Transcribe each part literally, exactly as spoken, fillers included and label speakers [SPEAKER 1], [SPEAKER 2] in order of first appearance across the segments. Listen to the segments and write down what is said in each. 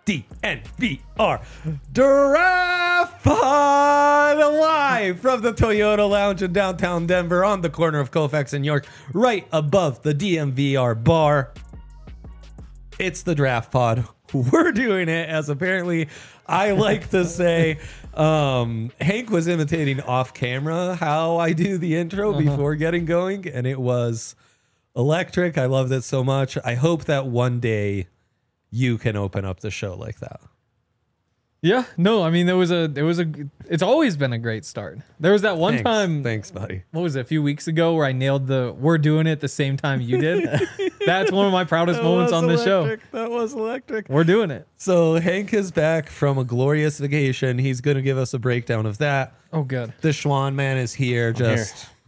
[SPEAKER 1] D N V R Draft Pod live from the Toyota Lounge in downtown Denver on the corner of Colfax and York, right above the D M V R bar. It's the Draft Pod. We're doing it as apparently I like to say. Um, Hank was imitating off camera how I do the intro uh-huh. before getting going, and it was electric. I loved it so much. I hope that one day you can open up the show like that.
[SPEAKER 2] Yeah, no, I mean, there was a, there was a, it's always been a great start. There was that one
[SPEAKER 1] Thanks.
[SPEAKER 2] time.
[SPEAKER 1] Thanks, buddy.
[SPEAKER 2] What was it, a few weeks ago where I nailed the, we're doing it at the same time you did. That's one of my proudest
[SPEAKER 1] that
[SPEAKER 2] moments on the show.
[SPEAKER 1] That was electric.
[SPEAKER 2] We're doing it.
[SPEAKER 1] So Hank is back from a glorious vacation. He's going to give us a breakdown of that.
[SPEAKER 2] Oh, good.
[SPEAKER 1] The Schwan man is here.
[SPEAKER 3] I'm
[SPEAKER 1] just
[SPEAKER 3] here.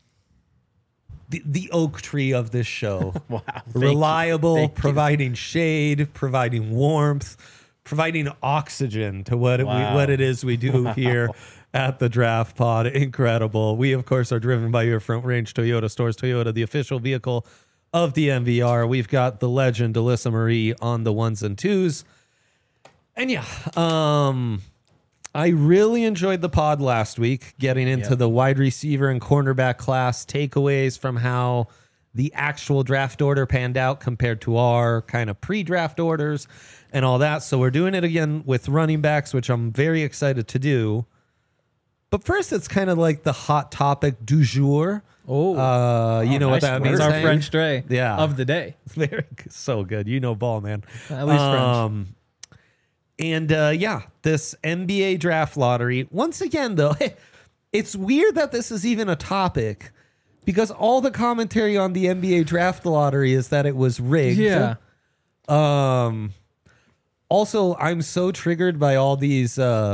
[SPEAKER 1] The, the oak tree of this show.
[SPEAKER 3] Wow.
[SPEAKER 1] Reliable,
[SPEAKER 3] Thank you.
[SPEAKER 1] providing shade, providing warmth, providing oxygen to what,
[SPEAKER 3] Wow.
[SPEAKER 1] we, what it is we do
[SPEAKER 3] Wow.
[SPEAKER 1] here at the Draft Pod. Incredible. We, of course, are driven by your Front Range Toyota stores. Toyota, the official vehicle of the M V R. We've got the legend, Alyssa Marie, on the ones and twos. And yeah, um... I really enjoyed the pod last week, getting into
[SPEAKER 3] Yep.
[SPEAKER 1] the wide receiver and cornerback class, takeaways from how the actual draft order panned out compared to our kind of pre-draft orders and all that. So we're doing it again with running backs, which I'm very excited to do. But first, it's kind of like the hot topic du jour.
[SPEAKER 2] Oh,
[SPEAKER 1] Uh, you
[SPEAKER 3] Oh,
[SPEAKER 1] know what
[SPEAKER 3] nice
[SPEAKER 1] that
[SPEAKER 3] word.
[SPEAKER 1] means?
[SPEAKER 2] it's our
[SPEAKER 1] Hank?
[SPEAKER 2] French Dre
[SPEAKER 1] Yeah.
[SPEAKER 2] of the day.
[SPEAKER 1] Very so good. You know ball, man.
[SPEAKER 2] At least French.
[SPEAKER 1] Um, and uh, yeah, this N B A draft lottery. Once again, though, it's weird that this is even a topic because all the commentary on the N B A draft lottery is that it was rigged.
[SPEAKER 2] Yeah.
[SPEAKER 1] Um. Also, I'm so triggered by all these uh,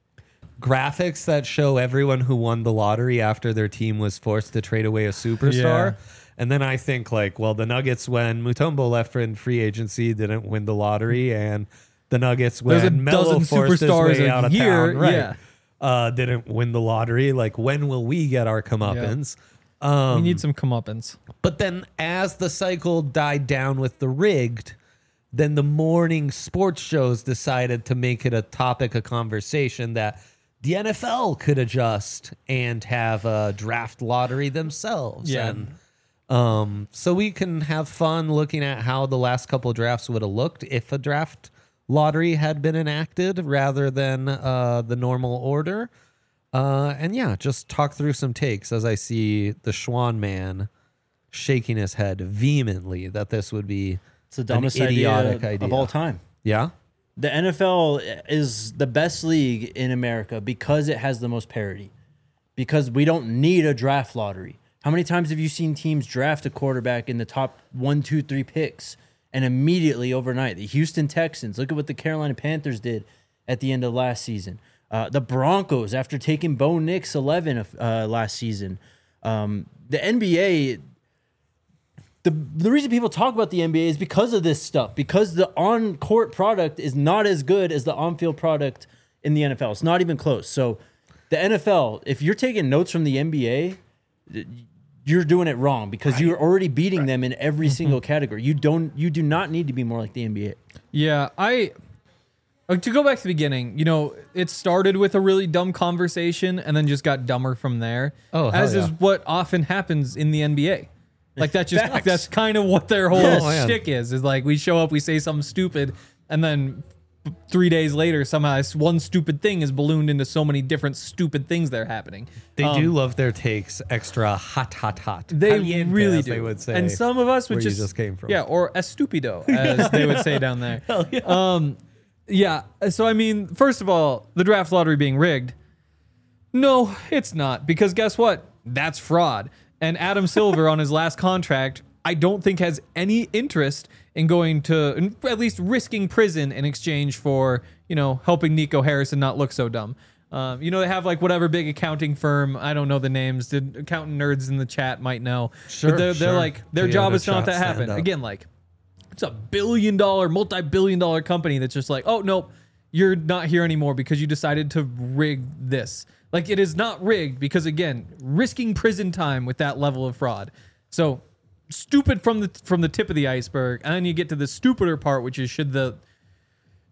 [SPEAKER 1] graphics that show everyone who won the lottery after their team was forced to trade away a superstar.
[SPEAKER 2] Yeah.
[SPEAKER 1] And then I think like, well, the Nuggets when Mutombo left in free agency didn't win the lottery, and the Nuggets
[SPEAKER 2] There's a
[SPEAKER 1] when Melo
[SPEAKER 2] dozen
[SPEAKER 1] forced his
[SPEAKER 2] superstars
[SPEAKER 1] way
[SPEAKER 2] a
[SPEAKER 1] out of
[SPEAKER 2] year,
[SPEAKER 1] town, right?
[SPEAKER 2] yeah.
[SPEAKER 1] Uh, didn't win the lottery. Like, when will we get our comeuppance? Um,
[SPEAKER 2] We need some comeuppance.
[SPEAKER 1] but then as the cycle died down with the rigged, then the morning sports shows decided to make it a topic of conversation that the N F L could adjust and have a draft lottery themselves.
[SPEAKER 2] Yeah.
[SPEAKER 1] And um, so we can have fun looking at how the last couple of drafts would have looked if a draft lottery had been enacted rather than uh, the normal order. Uh, and yeah, just talk through some takes as I see the Schwan man shaking his head vehemently that this would be
[SPEAKER 3] It's the dumbest
[SPEAKER 1] an idiotic
[SPEAKER 3] idea,
[SPEAKER 1] idea
[SPEAKER 3] of all time.
[SPEAKER 1] Yeah.
[SPEAKER 3] The N F L is the best league in America because it has the most parity. Because we don't need a draft lottery. How many times have you seen teams draft a quarterback in the top one, two, three picks and immediately overnight? The Houston Texans, look at what the Carolina Panthers did at the end of last season. Uh, the Broncos, after taking Bo Nix eleven uh, last season. Um, the N B A, the, the reason people talk about the N B A is because of this stuff, because the on-court product is not as good as the on-field product in the N F L. It's not even close. So the N F L, if you're taking notes from the N B A, you're doing it wrong because you're already beating them in every single category. You don't, you do not need to be more like the N B A.
[SPEAKER 2] Yeah, I uh, to go back to the beginning, you know, it started with a really dumb conversation and then just got dumber from there.
[SPEAKER 1] Oh, hell
[SPEAKER 2] as
[SPEAKER 1] yeah.
[SPEAKER 2] is what often happens in the N B A. Like that's just
[SPEAKER 3] Facts.
[SPEAKER 2] that's kind of what their whole
[SPEAKER 1] Yes. Oh, man.
[SPEAKER 2] shtick is. Is like we show up, we say something stupid, and then three days later, somehow this one stupid thing is ballooned into so many different stupid things that are happening.
[SPEAKER 1] They
[SPEAKER 2] Um,
[SPEAKER 1] do love their takes extra hot, hot, hot.
[SPEAKER 2] They
[SPEAKER 1] Caliente,
[SPEAKER 2] really
[SPEAKER 1] as
[SPEAKER 2] do.
[SPEAKER 1] They would say.
[SPEAKER 2] And some of us would
[SPEAKER 1] where you
[SPEAKER 2] just,
[SPEAKER 1] just came from.
[SPEAKER 2] Yeah, or estupido, as they would say down there.
[SPEAKER 1] Hell yeah.
[SPEAKER 2] Um, yeah. So I mean, first of all, the draft lottery being rigged. No, it's not, because guess what? That's fraud. And Adam Silver on his last contract, I don't think has any interest in going to, at least risking prison in exchange for, you know, helping Nico Harrison not look so dumb. Um, you know, they have like whatever big accounting firm. I don't know the names. The accountant nerds in the chat might know.
[SPEAKER 1] Sure,
[SPEAKER 2] but they're, they're
[SPEAKER 1] sure.
[SPEAKER 2] like, their
[SPEAKER 1] Toyota
[SPEAKER 2] job is to not
[SPEAKER 1] chat,
[SPEAKER 2] that
[SPEAKER 1] stand
[SPEAKER 2] happen.
[SPEAKER 1] up.
[SPEAKER 2] Again, like, it's a billion dollar, multi-billion dollar company that's just like, oh, nope, you're not here anymore because you decided to rig this. Like, it is not rigged because, again, risking prison time with that level of fraud. So stupid from the from the tip of the iceberg, and then you get to the stupider part, which is should the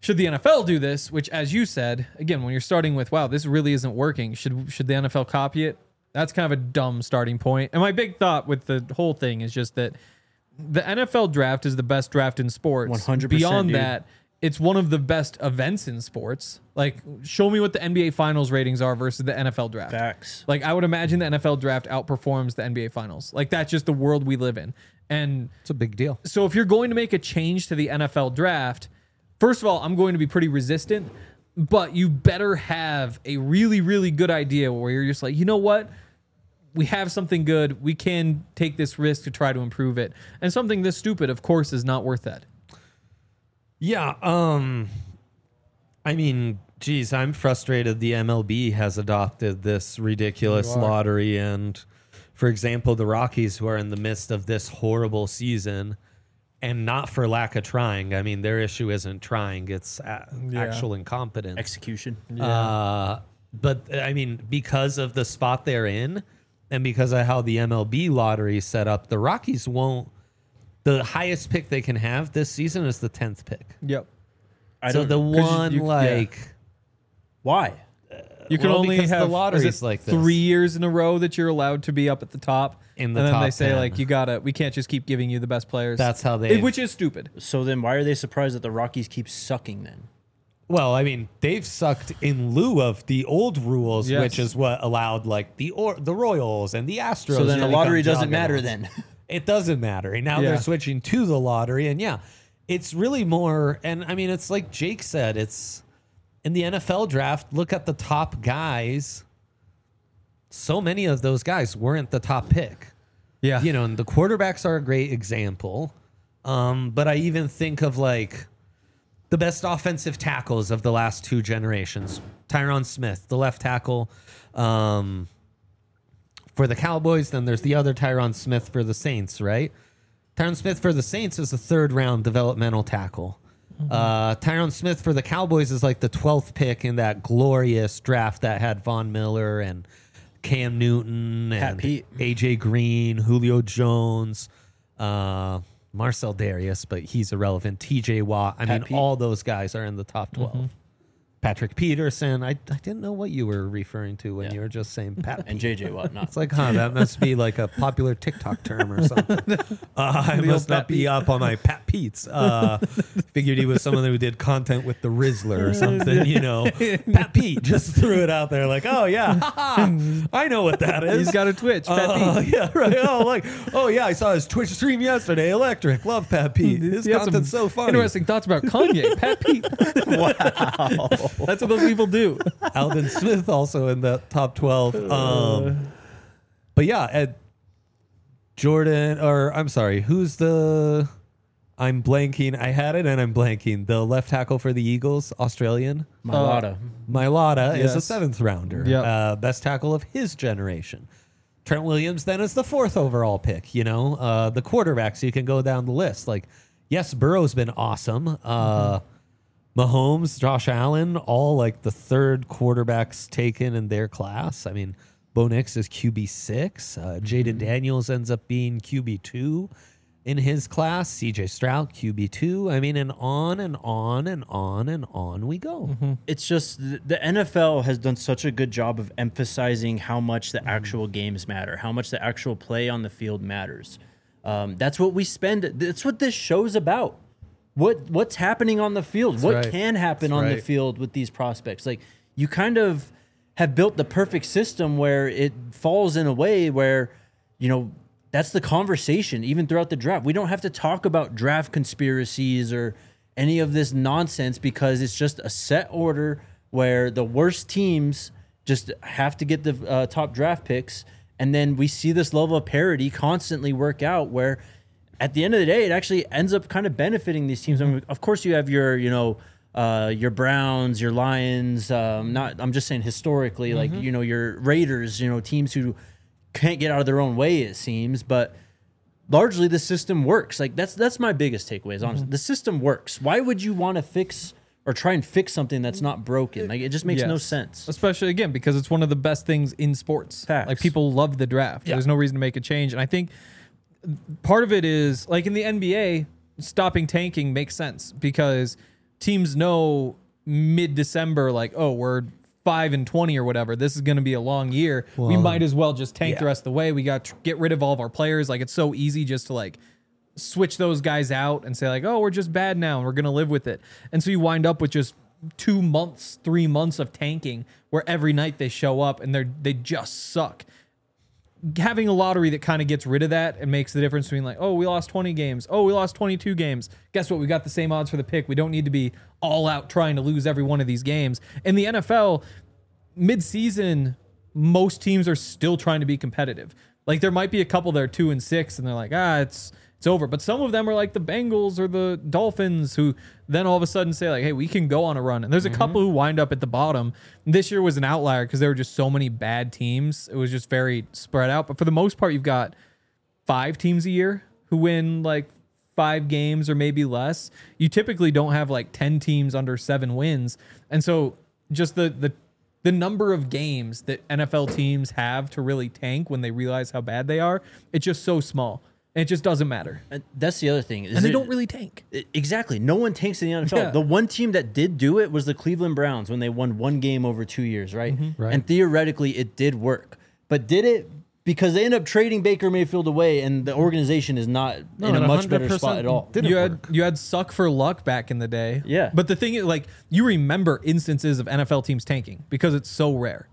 [SPEAKER 2] should the N F L do this? Which, as you said, again, when you're starting with, wow, this really isn't working. Should should the N F L copy it? That's kind of a dumb starting point. And my big thought with the whole thing is just that the N F L draft is the best draft in sports.
[SPEAKER 3] one hundred percent,
[SPEAKER 2] Beyond
[SPEAKER 3] dude.
[SPEAKER 2] that, it's one of the best events in sports. Like, show me what the N B A Finals ratings are versus the N F L draft.
[SPEAKER 3] Facts.
[SPEAKER 2] Like, I would imagine the N F L draft outperforms the N B A Finals. Like, that's just the world we live in. And
[SPEAKER 1] It's a big deal.
[SPEAKER 2] so if you're going to make a change to the N F L draft, first of all, I'm going to be pretty resistant, but you better have a really, really good idea where you're just like, you know what? We have something good. We can take this risk to try to improve it. And something this stupid, of course, is not worth that.
[SPEAKER 1] Yeah. Um, I mean, geez, I'm frustrated. The M L B has adopted this ridiculous
[SPEAKER 2] You are.
[SPEAKER 1] lottery. And for example, the Rockies, who are in the midst of this horrible season, and not for lack of trying. I mean, their issue isn't trying. It's a-
[SPEAKER 2] Yeah.
[SPEAKER 1] actual incompetence.
[SPEAKER 3] Execution.
[SPEAKER 1] Uh, but I mean, because of the spot they're in and because of how the M L B lottery is set up, the Rockies won't. The highest pick they can have this season is the tenth pick.
[SPEAKER 2] Yep.
[SPEAKER 3] I
[SPEAKER 1] so
[SPEAKER 3] don't
[SPEAKER 1] the
[SPEAKER 3] know.
[SPEAKER 2] 'Cause you-
[SPEAKER 1] one,
[SPEAKER 2] you- yeah.
[SPEAKER 1] like,
[SPEAKER 3] Why?
[SPEAKER 2] You can
[SPEAKER 1] Well,
[SPEAKER 2] only
[SPEAKER 1] because the
[SPEAKER 2] have
[SPEAKER 1] lottery
[SPEAKER 2] is
[SPEAKER 1] is
[SPEAKER 2] it
[SPEAKER 1] like this.
[SPEAKER 2] three years in a row that you're allowed to be up at the top.
[SPEAKER 1] In the
[SPEAKER 2] and then
[SPEAKER 1] top
[SPEAKER 2] they say
[SPEAKER 1] ten.
[SPEAKER 2] like you gotta, we can't just keep giving you the best players.
[SPEAKER 1] That's how
[SPEAKER 2] It-
[SPEAKER 1] they.
[SPEAKER 2] which is stupid.
[SPEAKER 3] So then why are they surprised that the Rockies keep sucking then?
[SPEAKER 1] Well, I mean, they've sucked in lieu of the old rules,
[SPEAKER 2] Yes.
[SPEAKER 1] which is what allowed like the or, the Royals and the Astros.
[SPEAKER 3] So then
[SPEAKER 1] to
[SPEAKER 3] the lottery
[SPEAKER 1] become
[SPEAKER 3] doesn't matter
[SPEAKER 1] juggernauts.
[SPEAKER 3] then.
[SPEAKER 1] It doesn't matter. And now
[SPEAKER 2] Yeah.
[SPEAKER 1] they're switching to the lottery. And yeah, it's really more. And I mean, it's like Jake said, it's in the N F L draft. Look at the top guys. So many of those guys weren't the top pick.
[SPEAKER 2] Yeah.
[SPEAKER 1] You know, and the quarterbacks are a great example. Um, but I even think of like the best offensive tackles of the last two generations. Tyron Smith, the left tackle. Um, for the Cowboys, then there's the other Tyron Smith for the Saints, right? Tyron Smith for the Saints is a third round developmental tackle. Uh, Tyron Smith for the Cowboys is like the twelfth pick in that glorious draft that had Von Miller and Cam Newton
[SPEAKER 3] Pat
[SPEAKER 1] and
[SPEAKER 3] Pete.
[SPEAKER 1] A J Green, Julio Jones, uh, Marcel Darius, but he's irrelevant. T J Watt. I
[SPEAKER 3] Pat
[SPEAKER 1] mean,
[SPEAKER 3] Pete.
[SPEAKER 1] all those guys are in the top twelve. Patrick Peterson. I, I didn't know what you were referring to when
[SPEAKER 3] Yeah.
[SPEAKER 1] you were just saying Pat.
[SPEAKER 3] And J J Watt, not.
[SPEAKER 1] It's like, huh, that must be like a popular TikTok term or something. Uh, I
[SPEAKER 2] old
[SPEAKER 1] must
[SPEAKER 2] Pat
[SPEAKER 1] not be
[SPEAKER 2] Pete.
[SPEAKER 1] up on my Pat Pete's. Uh, figured he was someone who did content with the Rizzler or something, you know. Pat Pete just threw it out there like, oh, yeah, I know what that is.
[SPEAKER 2] He's got a Twitch. Pat
[SPEAKER 1] Uh,
[SPEAKER 2] Pete.
[SPEAKER 1] yeah, right. Oh, like, oh yeah, I saw his Twitch stream yesterday. Electric, love Pat Pete. His
[SPEAKER 2] He had
[SPEAKER 1] content's so funny.
[SPEAKER 2] Interesting thoughts about Kanye. Pat Pete.
[SPEAKER 3] Wow.
[SPEAKER 2] That's what those people do.
[SPEAKER 1] Alvin Smith also in the top twelve. Um, but yeah, Ed Jordan, or I'm sorry, who's the? I'm blanking. I had it and I'm blanking. The left tackle for the Eagles, Australian.
[SPEAKER 3] Malata.
[SPEAKER 1] Mailata is a
[SPEAKER 2] Yes.
[SPEAKER 1] seventh rounder.
[SPEAKER 2] Yep.
[SPEAKER 1] Uh, best tackle of his generation. Trent Williams then is the fourth overall pick. You know, uh, the quarterbacks, you can go down the list. Like, yes, Burrow's been awesome. Uh, Mahomes, Josh Allen, all like the third quarterbacks taken in their class. I mean, Bo Nix is Q B six. Uh, Jaden Daniels ends up being Q B two in his class. C J Stroud, Q B two. I mean, and on and on and on and on we go.
[SPEAKER 3] It's just the, the N F L has done such a good job of emphasizing how much the actual games matter, how much the actual play on the field matters. Um, that's what we spend. That's what this show's about. What what's happening on the field? what
[SPEAKER 1] right.
[SPEAKER 3] can happen
[SPEAKER 1] That's
[SPEAKER 3] on the
[SPEAKER 1] right.
[SPEAKER 3] field with these prospects? Like you kind of have built the perfect system where it falls in a way where, you know, that's the conversation even throughout the draft. We don't have to talk about draft conspiracies or any of this nonsense because it's just a set order where the worst teams just have to get the uh, top draft picks. And then we see this level of parity constantly work out where at the end of the day, it actually ends up kind of benefiting these teams. I mean, of course, you have your, you know, uh, your Browns, your Lions. Um, not, I'm just saying historically, like you know, your Raiders. You know, teams who can't get out of their own way. It seems, but largely the system works. Like that's that's my biggest takeaway. Is honestly, the system works. Why would you want to fix or try and fix something that's not broken? Like it just makes no
[SPEAKER 2] Yes.
[SPEAKER 3] sense.
[SPEAKER 2] Especially again because it's one of the best things in sports.
[SPEAKER 3] Facts.
[SPEAKER 2] Like people love the draft.
[SPEAKER 1] Yeah.
[SPEAKER 2] There's no reason to make a change, and I think part of it is like in the N B A, stopping tanking makes sense because teams know mid-December, like, oh, we're five and twenty or whatever. This is going to be a long year. we
[SPEAKER 1] Well,
[SPEAKER 2] might as well just tank the
[SPEAKER 1] yeah.
[SPEAKER 2] rest of the way. We got to get rid of all of our players. Like, it's so easy just to like switch those guys out and say like, oh, we're just bad now and we're going to live with it. And so you wind up with just two months, three months of tanking where every night they show up and they're, they just suck. Having a lottery that kind of gets rid of that and makes the difference between like, oh, we lost twenty games. Oh, we lost twenty-two games. Guess what? We got the same odds for the pick. We don't need to be all out trying to lose every one of these games. In the N F L, mid-season, most teams are still trying to be competitive. Like there might be a couple that are two and six and they're like, ah, it's it's over. But some of them are like the Bengals or the Dolphins who then all of a sudden say like, hey, we can go on a run. And there's a mm-hmm. couple who wind up at the bottom. This year was an outlier because there were just so many bad teams. It was just very spread out. But for the most part, you've got five teams a year who win like five games or maybe less. You typically don't have like ten teams under seven wins. And so just the the the number of games that N F L teams have to really tank when they realize how bad they are, it's just so small. And it just doesn't matter.
[SPEAKER 3] And that's the other thing.
[SPEAKER 2] And they it, don't really tank.
[SPEAKER 3] It, exactly. No one tanks in the N F L.
[SPEAKER 2] Yeah.
[SPEAKER 3] The one team that did do it was the Cleveland Browns when they won one game over two years, right?
[SPEAKER 2] Mm-hmm.
[SPEAKER 1] Right.
[SPEAKER 3] And theoretically, it did work. But did it? Because they end up trading Baker Mayfield away, and the organization is not
[SPEAKER 1] No,
[SPEAKER 3] in a
[SPEAKER 1] it
[SPEAKER 3] much better spot at all.
[SPEAKER 1] didn't
[SPEAKER 2] You had
[SPEAKER 1] work.
[SPEAKER 2] you had suck for luck back in the day.
[SPEAKER 3] Yeah.
[SPEAKER 2] But the thing is, like, you remember instances of N F L teams tanking because it's so rare.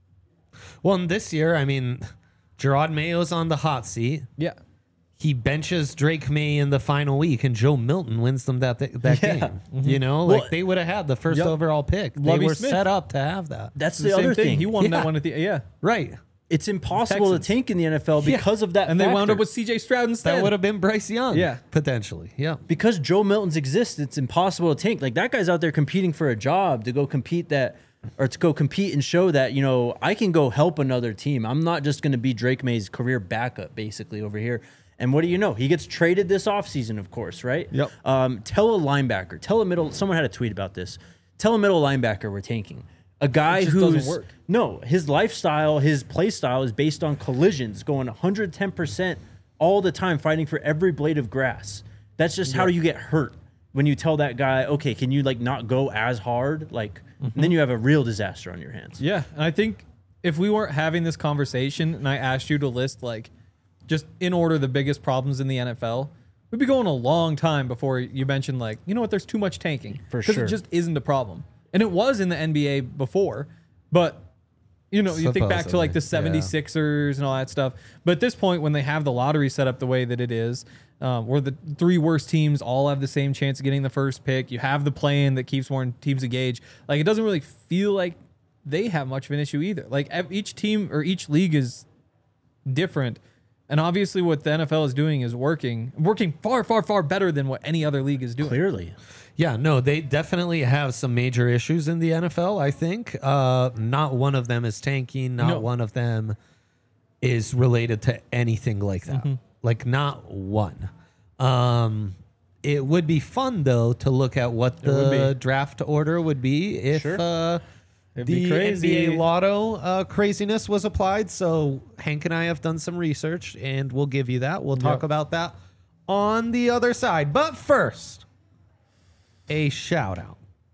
[SPEAKER 1] Well, and this year, I mean, Gerard Mayo's on the hot seat.
[SPEAKER 2] Yeah.
[SPEAKER 1] He benches Drake May in the final week, and Joe Milton wins them that that
[SPEAKER 3] Yeah.
[SPEAKER 1] game. You know, like
[SPEAKER 3] Well,
[SPEAKER 1] they would have had the first
[SPEAKER 2] Yep.
[SPEAKER 1] overall pick. They
[SPEAKER 2] Lovie
[SPEAKER 1] were
[SPEAKER 2] Smith.
[SPEAKER 1] set up to have that.
[SPEAKER 3] That's
[SPEAKER 2] It's
[SPEAKER 3] the,
[SPEAKER 2] same
[SPEAKER 3] other thing.
[SPEAKER 2] He won
[SPEAKER 1] Yeah.
[SPEAKER 2] that one at the yeah.
[SPEAKER 1] Right.
[SPEAKER 3] It's impossible
[SPEAKER 2] Texans.
[SPEAKER 3] to tank in the N F L
[SPEAKER 1] Yeah.
[SPEAKER 3] because of that.
[SPEAKER 2] And they wound
[SPEAKER 3] factor.
[SPEAKER 2] up with C J Stroud instead.
[SPEAKER 1] That would have been Bryce Young.
[SPEAKER 2] Yeah.
[SPEAKER 1] Potentially. Yeah.
[SPEAKER 3] because Joe Milton's exists, it's impossible to tank. Like that guy's out there competing for a job to go compete that, or to go compete and show that, you know, I can go help another team. I'm not just going to be Drake May's career backup basically over here. And what do you know? He gets traded this offseason, of course, right?
[SPEAKER 2] Yep.
[SPEAKER 3] Um, tell a linebacker, tell a middle, someone had a tweet about this. Tell a middle linebacker we're tanking. A guy
[SPEAKER 2] It just
[SPEAKER 3] who's
[SPEAKER 2] doesn't work.
[SPEAKER 3] no, his lifestyle, his play style is based on collisions, going one hundred ten percent all the time, fighting for every blade of grass. That's just how you get hurt when you tell that guy, okay, can you like not go as hard? Like, and then you have a real disaster on your hands.
[SPEAKER 2] Yeah, and I think if we weren't having this conversation and I asked you to list like just in order the biggest problems in the N F L, we'd be going a long time before you mentioned like, you know what, there's too much tanking.
[SPEAKER 3] For
[SPEAKER 2] Because
[SPEAKER 3] sure.
[SPEAKER 2] it just isn't a problem. And it was in the N B A before, but you know, you think back to like the
[SPEAKER 1] Supposedly, yeah.
[SPEAKER 2] seventy-sixers and all that stuff. But at this point, when they have the lottery set up the way that it is, um, where the three worst teams all have the same chance of getting the first pick, you have the play-in that keeps more teams engaged. Like, it doesn't really feel like they have much of an issue either. Like, ev- each team or each league is different. And obviously what the N F L is doing is working, working far, far, far better than what any other league is doing.
[SPEAKER 3] Clearly.
[SPEAKER 1] Yeah, no, they definitely have some major issues in the N F L, I think. Uh, not one of them is tanking. Not
[SPEAKER 2] No.
[SPEAKER 1] one of them is related to anything like that.
[SPEAKER 2] Mm-hmm.
[SPEAKER 1] Like, not one. Um, it would be fun, though, to look at what
[SPEAKER 2] would
[SPEAKER 1] the
[SPEAKER 2] be.
[SPEAKER 1] draft order would be if
[SPEAKER 3] Sure.
[SPEAKER 1] uh,
[SPEAKER 2] It'd be
[SPEAKER 1] the N B A
[SPEAKER 2] crazy.
[SPEAKER 1] Lotto uh, craziness was applied. So Hank and I have done some research, and we'll give you that. We'll talk
[SPEAKER 2] Yep.
[SPEAKER 1] about that on the other side. But first, a shout out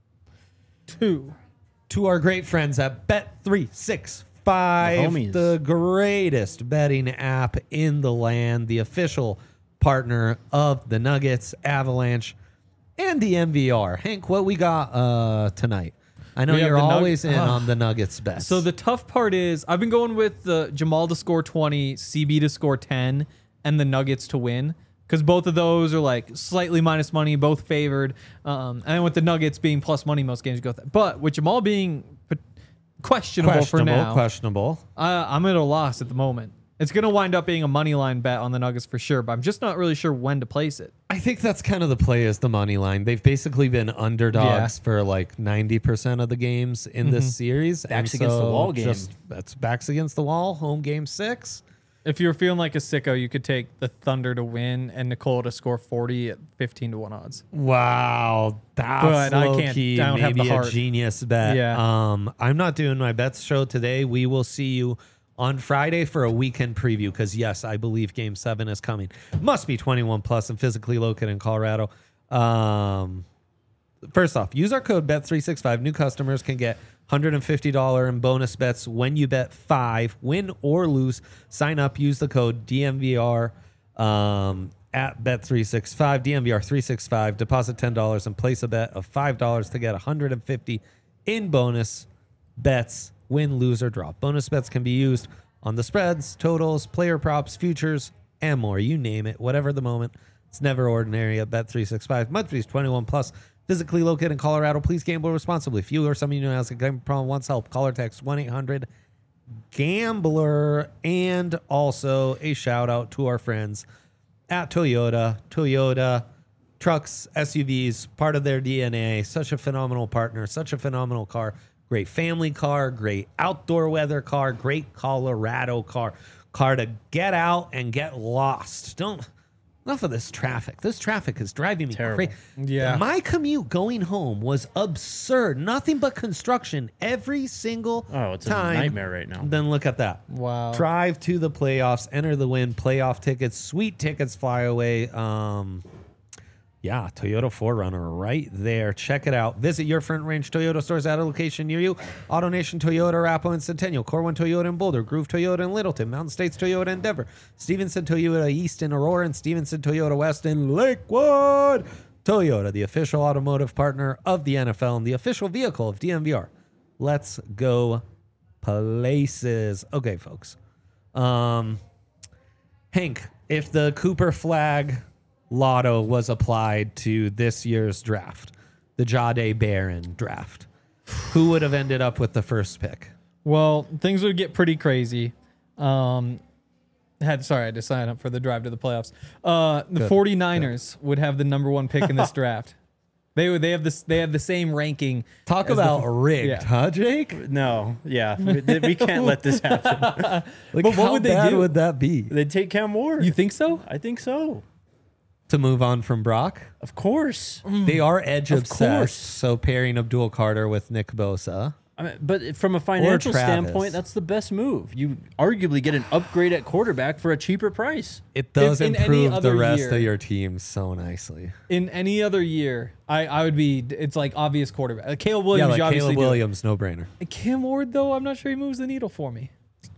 [SPEAKER 2] Two.
[SPEAKER 1] to our great friends at Bet three sixty-five,
[SPEAKER 3] The homies.
[SPEAKER 1] the greatest betting app in the land, the official partner of the Nuggets, Avalanche, and the M V R. Hank, what we got uh, tonight? I know
[SPEAKER 2] We have
[SPEAKER 1] you're
[SPEAKER 2] the Nug-
[SPEAKER 1] always in
[SPEAKER 2] Ah.
[SPEAKER 1] on the Nuggets bets.
[SPEAKER 2] So the tough part is I've been going with the Jamal to score twenty, C B to score ten, and the Nuggets to win. Because both of those are like slightly minus money, both favored. Um, and with the Nuggets being plus money, most games go with that. But with Jamal being p- questionable,
[SPEAKER 1] questionable,
[SPEAKER 2] for now,
[SPEAKER 1] questionable.
[SPEAKER 2] uh, I'm at a loss at the moment. It's going to wind up being a money line bet on the Nuggets for sure, but I'm just not really sure when to place it.
[SPEAKER 1] I think that's kind of the play is the money line. They've basically been underdogs
[SPEAKER 2] Yeah.
[SPEAKER 1] for like ninety percent of the games in this series.
[SPEAKER 3] Backs
[SPEAKER 1] and
[SPEAKER 3] against the
[SPEAKER 1] so
[SPEAKER 3] wall game.
[SPEAKER 1] Just, that's backs against the wall, home game six.
[SPEAKER 2] If you're feeling like a sicko, you could take the Thunder to win and Nicole to score forty at fifteen to one odds.
[SPEAKER 1] Wow, that's
[SPEAKER 2] But I
[SPEAKER 1] low
[SPEAKER 2] can't-
[SPEAKER 1] key,
[SPEAKER 2] I don't have the
[SPEAKER 1] maybe a
[SPEAKER 2] heart.
[SPEAKER 1] genius bet.
[SPEAKER 2] Yeah.
[SPEAKER 1] Um, I'm not doing my bets show today. We will see you on Friday for a weekend preview because yes, I believe Game Seven is coming. Must be twenty-one plus and physically located in Colorado. Um, first off, use our code bet three sixty-five. New customers can get one hundred fifty dollars in bonus bets when you bet five, win or lose. Sign up, use the code D M V R um, at bet three sixty-five, D M V R three sixty-five. Deposit ten dollars and place a bet of five dollars to get one hundred fifty dollars in bonus bets, win, lose, or draw. Bonus bets can be used on the spreads, totals, player props, futures, and more. You name it, whatever the moment. It's never ordinary at bet three sixty-five. Must be twenty-one plus. Physically located in Colorado. Please gamble responsibly. If you or someone you know has a gambling problem, wants help, call or text one eight hundred gambler. And also a shout out to our friends at Toyota. Toyota trucks, S U Vs, part of their D N A. Such a phenomenal partner. Such a phenomenal car. Great family car. Great outdoor weather car. Great Colorado car. Car to get out and get lost. Don't... Enough of this traffic. This traffic is driving me
[SPEAKER 3] Terrible.
[SPEAKER 1] crazy.
[SPEAKER 2] Yeah.
[SPEAKER 1] My commute going home was absurd. Nothing but construction every single
[SPEAKER 3] Oh, it's a
[SPEAKER 1] time.
[SPEAKER 3] nightmare right now.
[SPEAKER 1] Then look at that.
[SPEAKER 2] Wow.
[SPEAKER 1] Drive to the playoffs, enter the win, playoff tickets, sweet tickets fly away. Um, yeah, Toyota four runner right there. Check it out. Visit your Front Range Toyota stores at a location near you. AutoNation Toyota, Arapahoe and Centennial. Corwin Toyota in Boulder. Groove Toyota in Littleton. Mountain States Toyota in Denver. Stevenson Toyota East in Aurora. And Stevenson Toyota West in Lakewood. Toyota, the official automotive partner of the N F L and the official vehicle of D M V R. Let's go places. Okay, folks. Um, Hank, if the Cooper flag lotto was applied to this year's draft, the Jahdae Barron draft, who would have ended up with the first pick?
[SPEAKER 2] Well, things would get pretty crazy. Um, had sorry, I had to sign up for the drive to the playoffs. Uh, the
[SPEAKER 1] Good.
[SPEAKER 2] 49ers would have the number one pick in this draft. They would. They have this. They have the same ranking.
[SPEAKER 1] Talk
[SPEAKER 2] as the-
[SPEAKER 1] about rigged,
[SPEAKER 2] yeah.
[SPEAKER 1] huh, Jake?
[SPEAKER 3] No, yeah, we, we can't let this happen.
[SPEAKER 1] Like,
[SPEAKER 2] But what
[SPEAKER 1] how
[SPEAKER 2] would they
[SPEAKER 1] bad
[SPEAKER 2] do?
[SPEAKER 1] would that be?
[SPEAKER 3] They'd take Cam Ward.
[SPEAKER 2] You think so?
[SPEAKER 3] I think so.
[SPEAKER 1] To move on from Brock?
[SPEAKER 3] Of course.
[SPEAKER 1] They are edge
[SPEAKER 3] Of
[SPEAKER 1] obsessed,
[SPEAKER 3] course.
[SPEAKER 1] so pairing Abdul Carter with Nick Bosa.
[SPEAKER 3] I mean, but from a financial
[SPEAKER 1] Travis.
[SPEAKER 3] standpoint, that's the best move. You arguably get an upgrade at quarterback for a cheaper price.
[SPEAKER 1] It does
[SPEAKER 2] in any
[SPEAKER 1] improve the
[SPEAKER 2] other
[SPEAKER 1] rest
[SPEAKER 2] year-
[SPEAKER 1] of your team so nicely.
[SPEAKER 2] In any other year, I, I would be. It's like obvious quarterback. Like Caleb Williams,
[SPEAKER 1] yeah, like
[SPEAKER 2] you obviously
[SPEAKER 1] Caleb
[SPEAKER 2] do.
[SPEAKER 1] Williams, no brainer.
[SPEAKER 2] Cam Ward, though, I'm not sure he moves the needle for me.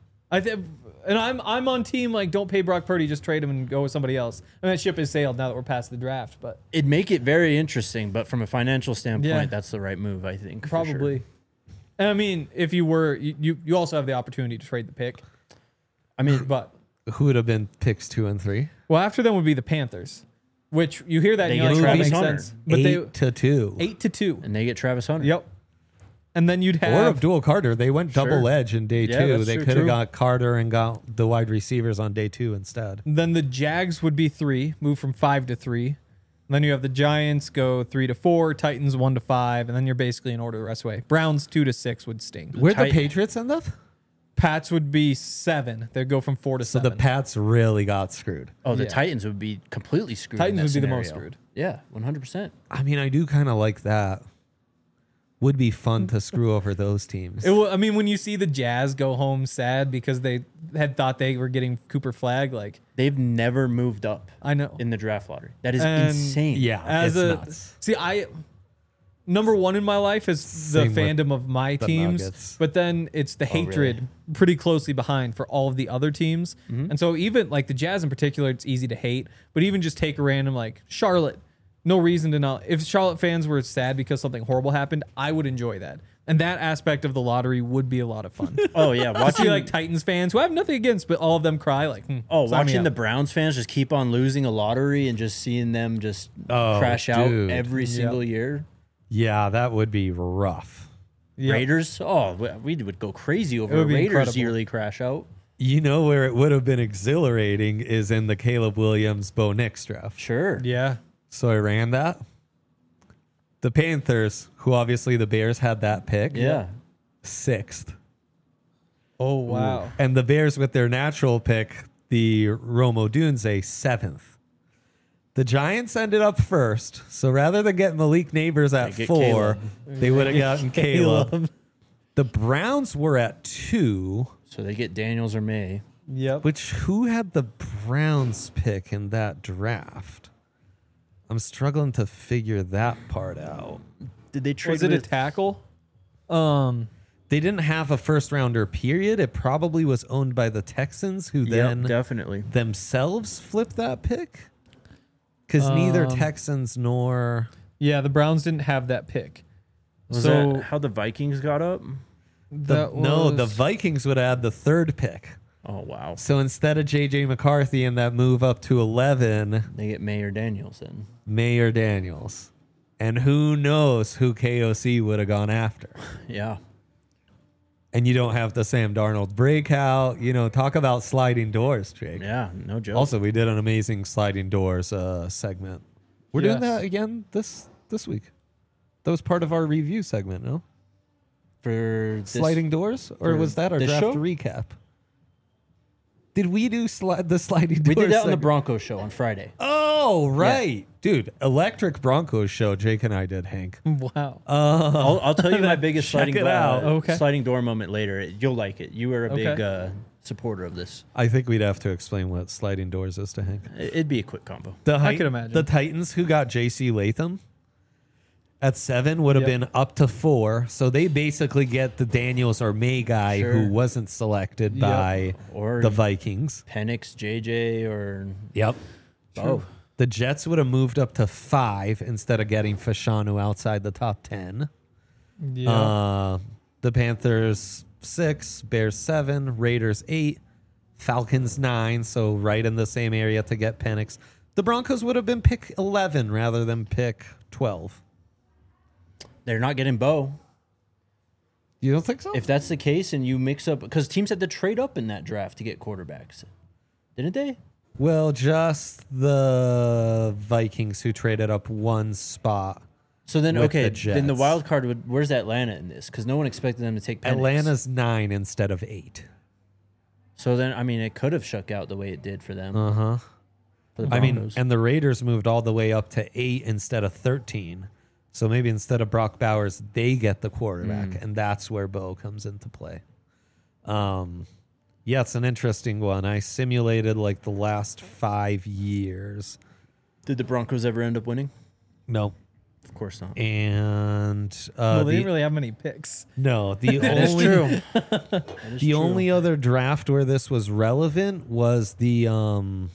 [SPEAKER 2] I think, and I'm I'm on team like don't pay Brock Purdy, just trade him and go with somebody else. And that ship has sailed now that we're past the draft. But
[SPEAKER 3] It'd make it very interesting, but from a financial standpoint,
[SPEAKER 2] Yeah.
[SPEAKER 3] that's the right move, I think. for sure.
[SPEAKER 2] probably. And I mean, if you were, you, you you also have the opportunity to trade the pick.
[SPEAKER 3] I mean,
[SPEAKER 2] But
[SPEAKER 1] Who would have been picks two and three?
[SPEAKER 2] well, after them would be the Panthers, which you hear that
[SPEAKER 3] They
[SPEAKER 2] and you're
[SPEAKER 3] get
[SPEAKER 2] like, that
[SPEAKER 3] Travis
[SPEAKER 2] makes
[SPEAKER 3] Hunter.
[SPEAKER 2] sense. But
[SPEAKER 1] Eight
[SPEAKER 2] they
[SPEAKER 1] to two.
[SPEAKER 2] eight to two.
[SPEAKER 3] and they get Travis Hunter.
[SPEAKER 2] Yep. And then you'd
[SPEAKER 1] Or
[SPEAKER 2] have
[SPEAKER 1] Abdul Carter. They went
[SPEAKER 3] Sure.
[SPEAKER 1] double edge in day
[SPEAKER 3] Yeah,
[SPEAKER 1] two.
[SPEAKER 3] that's
[SPEAKER 1] They
[SPEAKER 3] true,
[SPEAKER 1] could have
[SPEAKER 3] true.
[SPEAKER 1] got Carter and got the wide receivers on day two instead.
[SPEAKER 2] Then the Jags would be three, move from five to three. Then you have the Giants go three to four, Titans one to five, and then you're basically in order the rest of the way. Browns two to six would sting.
[SPEAKER 1] Where'd the
[SPEAKER 3] Tit-
[SPEAKER 1] Patriots end up?
[SPEAKER 2] Pats would be seven. They'd go from four to
[SPEAKER 1] So
[SPEAKER 2] seven.
[SPEAKER 1] the Pats really got screwed.
[SPEAKER 3] Oh, the
[SPEAKER 2] Yeah.
[SPEAKER 3] Titans would be completely screwed. in
[SPEAKER 2] Titans
[SPEAKER 3] that
[SPEAKER 2] would be the most
[SPEAKER 3] scenario.
[SPEAKER 2] screwed.
[SPEAKER 3] Yeah, one hundred percent.
[SPEAKER 1] I mean, I do kind of like that. Would be fun to screw over those teams.
[SPEAKER 2] It will, I mean, when you see the Jazz go home sad because they had thought they were getting Cooper Flag, like
[SPEAKER 3] They've never moved up
[SPEAKER 2] I know.
[SPEAKER 3] in the draft lottery. That is
[SPEAKER 2] And-
[SPEAKER 3] insane.
[SPEAKER 1] Yeah,
[SPEAKER 2] As
[SPEAKER 1] it's
[SPEAKER 2] a
[SPEAKER 1] nuts.
[SPEAKER 2] see, I number one in my life is the
[SPEAKER 1] Same with
[SPEAKER 2] fandom of my
[SPEAKER 1] the
[SPEAKER 2] teams,
[SPEAKER 1] Nuggets.
[SPEAKER 2] but then it's the hatred
[SPEAKER 3] really?
[SPEAKER 2] pretty closely behind for all of the other teams. And so even like the Jazz in particular, it's easy to hate. But even just take a random like Charlotte, no reason to not. If Charlotte fans were sad because something horrible happened, I would enjoy that. And that aspect of the lottery would be a lot of fun.
[SPEAKER 3] Oh yeah,
[SPEAKER 2] I
[SPEAKER 3] watching
[SPEAKER 2] see like Titans fans who I have nothing against, but all of them cry like, hmm,
[SPEAKER 3] oh
[SPEAKER 2] sign me
[SPEAKER 3] watching the
[SPEAKER 2] up.
[SPEAKER 3] Browns fans just keep on losing a lottery and just seeing them just
[SPEAKER 1] Oh,
[SPEAKER 3] crash out
[SPEAKER 1] dude.
[SPEAKER 3] every single year.
[SPEAKER 1] Yeah, that would be rough.
[SPEAKER 2] Yep.
[SPEAKER 3] Raiders, oh, we we would go crazy over
[SPEAKER 2] It
[SPEAKER 3] a
[SPEAKER 2] would be
[SPEAKER 3] Raiders
[SPEAKER 2] incredible.
[SPEAKER 3] yearly crash out.
[SPEAKER 1] You know where it would have been exhilarating is in the Caleb Williams Bo Nix draft.
[SPEAKER 3] Sure.
[SPEAKER 2] Yeah.
[SPEAKER 1] So I ran that. The Panthers, who obviously the Bears had that pick,
[SPEAKER 3] Yeah.
[SPEAKER 1] sixth.
[SPEAKER 2] Oh wow.
[SPEAKER 1] And the Bears with their natural pick, the Romo Dunze, seventh. The Giants ended up first. So rather than get Malik Neighbors at
[SPEAKER 3] They get
[SPEAKER 1] four,
[SPEAKER 3] Caleb.
[SPEAKER 1] they would have gotten Caleb. The Browns were at two,
[SPEAKER 3] So they get Daniels or May.
[SPEAKER 2] Yep.
[SPEAKER 1] which who had the Browns pick in that draft? I'm struggling to figure that part out.
[SPEAKER 3] Did they trade
[SPEAKER 2] Was it a
[SPEAKER 3] with-
[SPEAKER 2] tackle? Um,
[SPEAKER 1] They didn't have a first rounder, period. It probably was owned by the Texans, who
[SPEAKER 3] Yep,
[SPEAKER 1] then
[SPEAKER 3] definitely.
[SPEAKER 1] themselves flipped that pick. Because neither
[SPEAKER 2] Um,
[SPEAKER 1] Texans nor.
[SPEAKER 2] yeah, the Browns didn't have that pick.
[SPEAKER 3] Was
[SPEAKER 2] so
[SPEAKER 3] that how the Vikings got up?
[SPEAKER 1] The,
[SPEAKER 2] that
[SPEAKER 1] no, the
[SPEAKER 2] was-
[SPEAKER 1] Vikings would add the third pick.
[SPEAKER 3] Oh, wow.
[SPEAKER 1] So instead of J J McCarthy and that move up to eleven,
[SPEAKER 3] They get Mayor Daniels in.
[SPEAKER 1] Mayor Daniels. And who knows who K O C would have gone after.
[SPEAKER 3] Yeah.
[SPEAKER 1] And you don't have the Sam Darnold breakout. You know, talk about sliding doors, Jake.
[SPEAKER 3] Yeah, no joke.
[SPEAKER 1] Also, we did an amazing sliding doors uh, segment. We're doing
[SPEAKER 2] Yes.
[SPEAKER 1] that again this this week. That was part of our review segment, no?
[SPEAKER 3] for this,
[SPEAKER 1] Sliding doors? Or
[SPEAKER 3] for
[SPEAKER 1] was that our
[SPEAKER 3] this
[SPEAKER 1] draft
[SPEAKER 3] show?
[SPEAKER 1] recap? Did we do sli- the sliding doors?
[SPEAKER 3] We did that on the
[SPEAKER 1] segment?
[SPEAKER 3] Broncos show on Friday.
[SPEAKER 1] Oh, right. Dude, Electric Broncos show, Jake and I did, Hank.
[SPEAKER 2] Wow.
[SPEAKER 1] Uh,
[SPEAKER 3] I'll, I'll tell you my biggest
[SPEAKER 1] Check
[SPEAKER 3] sliding
[SPEAKER 1] it
[SPEAKER 3] door,
[SPEAKER 1] out.
[SPEAKER 2] Okay.
[SPEAKER 3] sliding door moment later. You'll like it. You were a big
[SPEAKER 2] Okay.
[SPEAKER 3] uh, supporter of this.
[SPEAKER 1] I think we'd have to explain what sliding doors is to Hank.
[SPEAKER 3] It'd be a quick combo.
[SPEAKER 1] The
[SPEAKER 2] I
[SPEAKER 1] Hi-
[SPEAKER 2] could imagine.
[SPEAKER 1] The Titans who got J C Latham at seven would have
[SPEAKER 2] Yep.
[SPEAKER 1] been up to four. So they basically get the Daniels or May guy
[SPEAKER 3] Sure.
[SPEAKER 1] who wasn't selected
[SPEAKER 2] Yep.
[SPEAKER 1] by
[SPEAKER 3] Or
[SPEAKER 1] the Vikings.
[SPEAKER 3] Penix, J J, or
[SPEAKER 1] Yep.
[SPEAKER 3] oh,
[SPEAKER 1] The Jets would have moved up to five instead of getting Fashanu outside the top ten.
[SPEAKER 2] Yeah.
[SPEAKER 1] Uh, the Panthers six, Bears seven, Raiders eight, Falcons nine. So right in the same area to get Penix. The Broncos would have been pick eleven rather than pick twelve.
[SPEAKER 3] they're not getting Bo.
[SPEAKER 1] You don't think so?
[SPEAKER 3] If that's the case, and you mix up because teams had to trade up in that draft to get quarterbacks, didn't they?
[SPEAKER 1] Well, just the Vikings who traded up one spot.
[SPEAKER 3] So then,
[SPEAKER 1] With
[SPEAKER 3] okay,
[SPEAKER 1] the
[SPEAKER 3] then the
[SPEAKER 1] Jets.
[SPEAKER 3] wild card would. Where's Atlanta in this? Because no one expected them to take Penix.
[SPEAKER 1] Atlanta's nine instead of eight.
[SPEAKER 3] So then, I mean, it could have shook out the way it did for them.
[SPEAKER 1] Uh huh.
[SPEAKER 3] for the
[SPEAKER 1] I mean,
[SPEAKER 3] Broncos.
[SPEAKER 1] and the Raiders moved all the way up to eight instead of thirteen. So maybe instead of Brock Bowers, they get the quarterback,
[SPEAKER 3] Mm.
[SPEAKER 1] and that's where Bo comes into play. Um, yeah, it's an interesting one. I simulated like the last five years.
[SPEAKER 3] Did the Broncos ever end up winning?
[SPEAKER 1] No,
[SPEAKER 3] Of course not.
[SPEAKER 1] and uh,
[SPEAKER 2] well, they
[SPEAKER 1] the,
[SPEAKER 2] didn't really have many picks.
[SPEAKER 1] no, the
[SPEAKER 3] That is
[SPEAKER 1] only
[SPEAKER 3] true. That is
[SPEAKER 1] the
[SPEAKER 3] true.
[SPEAKER 1] only other draft where this was relevant was the um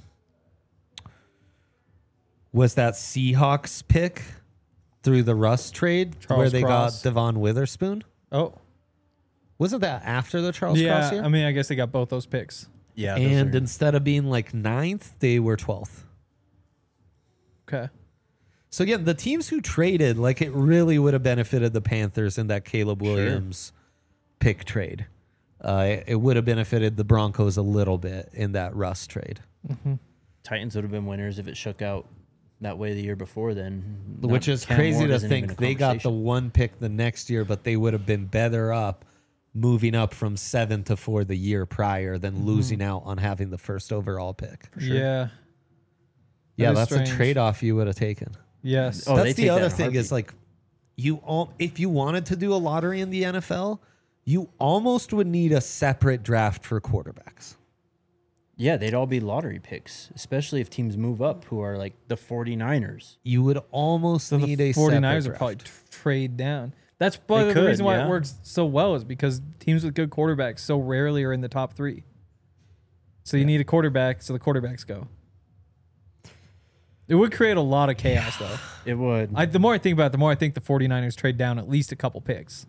[SPEAKER 1] was that Seahawks pick through the Russ trade
[SPEAKER 2] Charles
[SPEAKER 1] where they
[SPEAKER 2] Cross.
[SPEAKER 1] got Devon Witherspoon.
[SPEAKER 2] Oh,
[SPEAKER 1] Wasn't that after the Charles
[SPEAKER 2] yeah.
[SPEAKER 1] Cross year?
[SPEAKER 2] I mean, I guess they got both those picks.
[SPEAKER 3] yeah, those
[SPEAKER 1] and
[SPEAKER 3] are-
[SPEAKER 1] instead of being like ninth, they were twelfth.
[SPEAKER 2] Okay.
[SPEAKER 1] So again, the teams who traded, like it really would have benefited the Panthers in that Caleb Williams pick trade. Uh, it, it would have benefited the Broncos a little bit in that Russ trade.
[SPEAKER 3] Titans would have been winners if it shook out that way the year before. Then,
[SPEAKER 1] Which
[SPEAKER 3] Not-
[SPEAKER 1] is
[SPEAKER 3] Cam
[SPEAKER 1] crazy
[SPEAKER 3] Ward
[SPEAKER 1] to
[SPEAKER 3] isn't even
[SPEAKER 1] think
[SPEAKER 3] a
[SPEAKER 1] they got the
[SPEAKER 3] conversation.
[SPEAKER 1] one pick the next year, but they would have been better up moving up from seven to four the year prior than
[SPEAKER 3] Mm-hmm.
[SPEAKER 1] losing out on having the first overall pick.
[SPEAKER 2] Yeah.
[SPEAKER 1] Yeah,
[SPEAKER 2] is
[SPEAKER 1] that's
[SPEAKER 2] strange.
[SPEAKER 1] a trade off you would have taken.
[SPEAKER 2] Yes.
[SPEAKER 3] Oh, they
[SPEAKER 1] that's
[SPEAKER 3] take
[SPEAKER 1] the
[SPEAKER 3] that
[SPEAKER 1] other
[SPEAKER 3] in a
[SPEAKER 1] thing is
[SPEAKER 3] heartbeat.
[SPEAKER 1] like you all if you wanted to do a lottery in the N F L, you almost would need a separate draft for quarterbacks.
[SPEAKER 3] Yeah, they'd all be lottery picks, especially if teams move up who are like the 49ers.
[SPEAKER 1] You would almost
[SPEAKER 2] So
[SPEAKER 1] need
[SPEAKER 2] the
[SPEAKER 1] a
[SPEAKER 2] 49ers
[SPEAKER 1] separate
[SPEAKER 2] would probably
[SPEAKER 1] draft.
[SPEAKER 2] t- trade down. That's probably
[SPEAKER 3] They
[SPEAKER 2] the
[SPEAKER 3] could,
[SPEAKER 2] reason why
[SPEAKER 3] yeah.
[SPEAKER 2] it works so well is because teams with good quarterbacks so rarely are in the top three. So you need a quarterback, so the quarterbacks go. It would create a lot of chaos, though.
[SPEAKER 3] It would.
[SPEAKER 2] I, the more I think about it, the more I think the 49ers trade down at least a couple picks.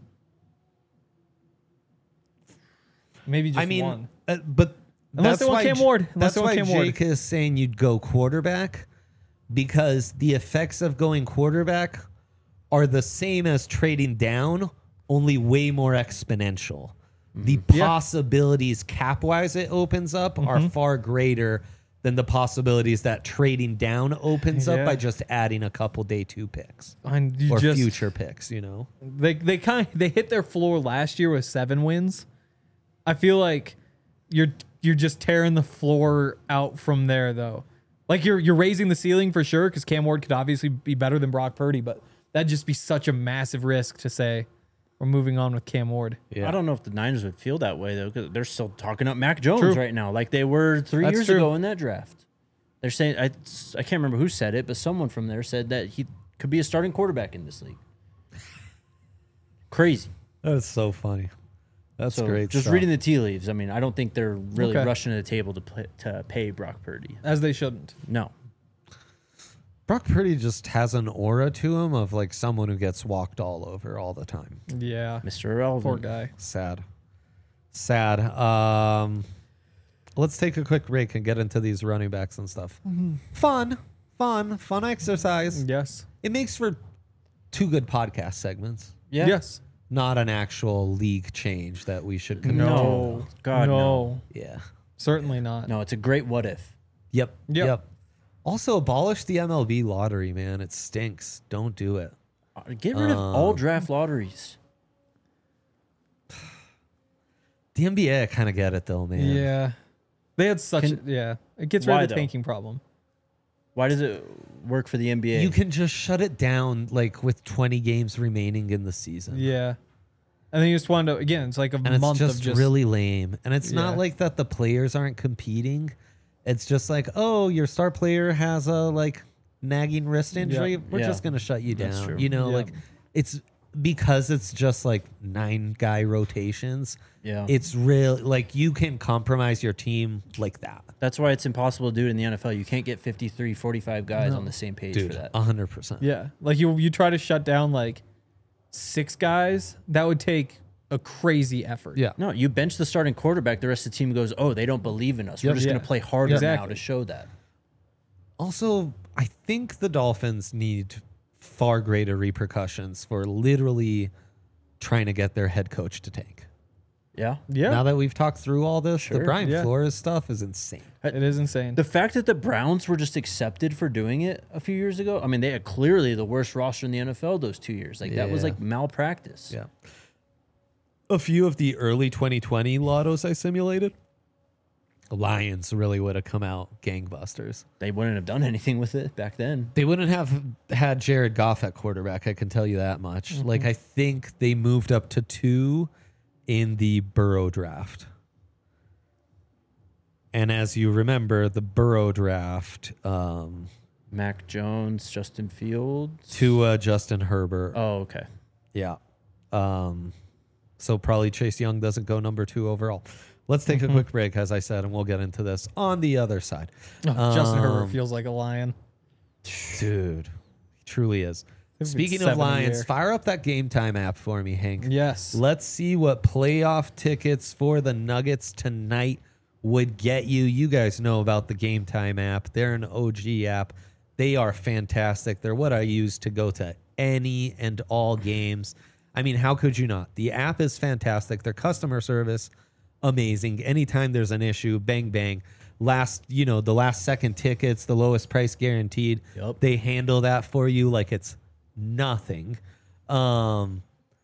[SPEAKER 2] Maybe just
[SPEAKER 1] I mean,
[SPEAKER 2] one.
[SPEAKER 1] uh, but
[SPEAKER 2] Unless
[SPEAKER 1] that's
[SPEAKER 2] they want
[SPEAKER 1] why
[SPEAKER 2] Cam
[SPEAKER 1] J-
[SPEAKER 2] Ward. Unless
[SPEAKER 1] That's
[SPEAKER 2] they want
[SPEAKER 1] why
[SPEAKER 2] Cam Ward.
[SPEAKER 1] Jake is saying you'd go quarterback because the effects of going quarterback are the same as trading down, only way more exponential. The
[SPEAKER 2] Mm-hmm. Yeah.
[SPEAKER 1] possibilities cap wise it opens up are
[SPEAKER 2] Mm-hmm.
[SPEAKER 1] far greater than the possibilities that trading down opens up
[SPEAKER 2] Yeah.
[SPEAKER 1] by just adding a couple day two picks
[SPEAKER 2] And you
[SPEAKER 1] or
[SPEAKER 2] just,
[SPEAKER 1] future picks, you know?
[SPEAKER 2] They they kind of, they hit their floor last year with seven wins. I feel like you're you're just tearing the floor out from there though. Like you're you're raising the ceiling for sure because Cam Ward could obviously be better than Brock Purdy, but that'd just be such a massive risk to say we're moving on with Cam Ward.
[SPEAKER 1] Yeah.
[SPEAKER 3] I don't know if the Niners would feel that way though, because they're still talking up Mac Jones
[SPEAKER 2] True.
[SPEAKER 3] right now, like they were three
[SPEAKER 2] That's
[SPEAKER 3] years
[SPEAKER 2] true.
[SPEAKER 3] ago in that draft. They're saying I I can't remember who said it, but someone from there said that he could be a starting quarterback in this league. Crazy.
[SPEAKER 1] That's so funny. That's
[SPEAKER 3] So
[SPEAKER 1] great.
[SPEAKER 3] just
[SPEAKER 1] stuff.
[SPEAKER 3] reading the tea leaves. I mean, I don't think they're really
[SPEAKER 2] Okay.
[SPEAKER 3] rushing to the table to play, to pay Brock Purdy.
[SPEAKER 2] As they shouldn't.
[SPEAKER 3] No.
[SPEAKER 1] Brock Purdy just has an aura to him of like someone who gets walked all over all the time.
[SPEAKER 2] Yeah.
[SPEAKER 3] Mister Irrelevant.
[SPEAKER 2] Poor guy.
[SPEAKER 1] Sad. Sad. Um, let's take a quick break and get into these running backs and stuff. Fun, fun, fun exercise.
[SPEAKER 2] Yes.
[SPEAKER 1] It makes for two good podcast segments.
[SPEAKER 3] Yeah.
[SPEAKER 2] Yes.
[SPEAKER 1] Not an actual league change that we should condone.
[SPEAKER 2] No.
[SPEAKER 3] God, no.
[SPEAKER 2] no.
[SPEAKER 1] Yeah.
[SPEAKER 2] Certainly not.
[SPEAKER 3] No, it's a great what if.
[SPEAKER 1] Yep.
[SPEAKER 2] Yep.
[SPEAKER 1] Yep. Also, abolish the M L B lottery, man. It stinks. Don't do it.
[SPEAKER 3] Uh, Get rid of all
[SPEAKER 1] Um,
[SPEAKER 3] draft lotteries.
[SPEAKER 1] The N B A, I kind of get it though, man.
[SPEAKER 2] Yeah. They had such
[SPEAKER 3] Can-
[SPEAKER 2] a, yeah. It gets rid
[SPEAKER 3] Why,
[SPEAKER 2] of the
[SPEAKER 3] though?
[SPEAKER 2] tanking problem.
[SPEAKER 3] Why does it work for the N B A?
[SPEAKER 1] You can just shut it down like with twenty games remaining in the season.
[SPEAKER 2] Yeah. And then you just want to again, it's like a
[SPEAKER 1] And it's
[SPEAKER 2] month
[SPEAKER 1] just,
[SPEAKER 2] of just
[SPEAKER 1] really lame. And it's not
[SPEAKER 2] Yeah.
[SPEAKER 1] like that the players aren't competing. It's just like, oh, your star player has a like nagging wrist injury. We're
[SPEAKER 3] Yeah.
[SPEAKER 1] just gonna shut you
[SPEAKER 3] That's
[SPEAKER 1] down.
[SPEAKER 3] true.
[SPEAKER 1] You know,
[SPEAKER 2] Yeah.
[SPEAKER 1] like it's because it's just like nine guy rotations.
[SPEAKER 3] Yeah.
[SPEAKER 1] It's real like you can compromise your team like that.
[SPEAKER 3] That's why it's impossible to do it in the N F L. You can't get fifty-three, forty-five guys
[SPEAKER 2] No.
[SPEAKER 3] on the same page
[SPEAKER 1] Dude,
[SPEAKER 3] for that.
[SPEAKER 1] a hundred percent.
[SPEAKER 2] Yeah. Like you you try to shut down like six guys, that would take a crazy effort.
[SPEAKER 1] Yeah.
[SPEAKER 3] No, you bench the starting quarterback. The rest of the team goes, oh, they don't believe in us. We're
[SPEAKER 1] Yep.
[SPEAKER 3] just going
[SPEAKER 2] Yeah.
[SPEAKER 3] to play harder now
[SPEAKER 2] Exactly.
[SPEAKER 3] to show that.
[SPEAKER 1] Also, I think the Dolphins need far greater repercussions for literally trying to get their head coach to tank.
[SPEAKER 3] Yeah.
[SPEAKER 2] Yeah.
[SPEAKER 1] Now that we've talked through all this, the
[SPEAKER 3] Sure,
[SPEAKER 1] Brian
[SPEAKER 2] yeah.
[SPEAKER 1] Flores stuff is insane.
[SPEAKER 2] It is insane.
[SPEAKER 3] The fact that the Browns were just accepted for doing it a few years ago, I mean, they had clearly the worst roster in the N F L those two years. Like, that was
[SPEAKER 1] Yeah.
[SPEAKER 3] like malpractice.
[SPEAKER 1] Yeah. A few of the early twenty twenty lottos I simulated, Lions really would have come out gangbusters.
[SPEAKER 3] They wouldn't have done anything with it back then.
[SPEAKER 1] They wouldn't have had Jared Goff at quarterback, I can tell you that much. Like, I think they moved up to two in the Burrow draft. And as you remember, the Burrow draft, um,
[SPEAKER 3] Mac Jones, Justin Fields.
[SPEAKER 1] Tua, Justin Herbert.
[SPEAKER 3] Oh, okay.
[SPEAKER 1] Yeah. Um, so probably Chase Young doesn't go number two overall. Let's take a quick break, as I said, and we'll get into this on the other side.
[SPEAKER 2] Oh, Justin Herbert
[SPEAKER 1] Um,
[SPEAKER 2] feels like a lion.
[SPEAKER 1] Dude, he truly is.
[SPEAKER 2] He's
[SPEAKER 1] Speaking
[SPEAKER 2] seven
[SPEAKER 1] of
[SPEAKER 2] a
[SPEAKER 1] Lions,
[SPEAKER 2] year.
[SPEAKER 1] fire up that Game Time app for me, Hank.
[SPEAKER 2] Yes.
[SPEAKER 1] Let's see what playoff tickets for the Nuggets tonight would get you. You guys know about the Game Time app. They're an O G app. They are fantastic. They're what I use to go to any and all games. I mean, how could you not? The app is fantastic. Their customer service, amazing. Anytime there's an issue, bang, bang. Last, you know, the last second tickets, the lowest price guaranteed.
[SPEAKER 3] Yep.
[SPEAKER 1] They handle that for you like it's nothing. Um,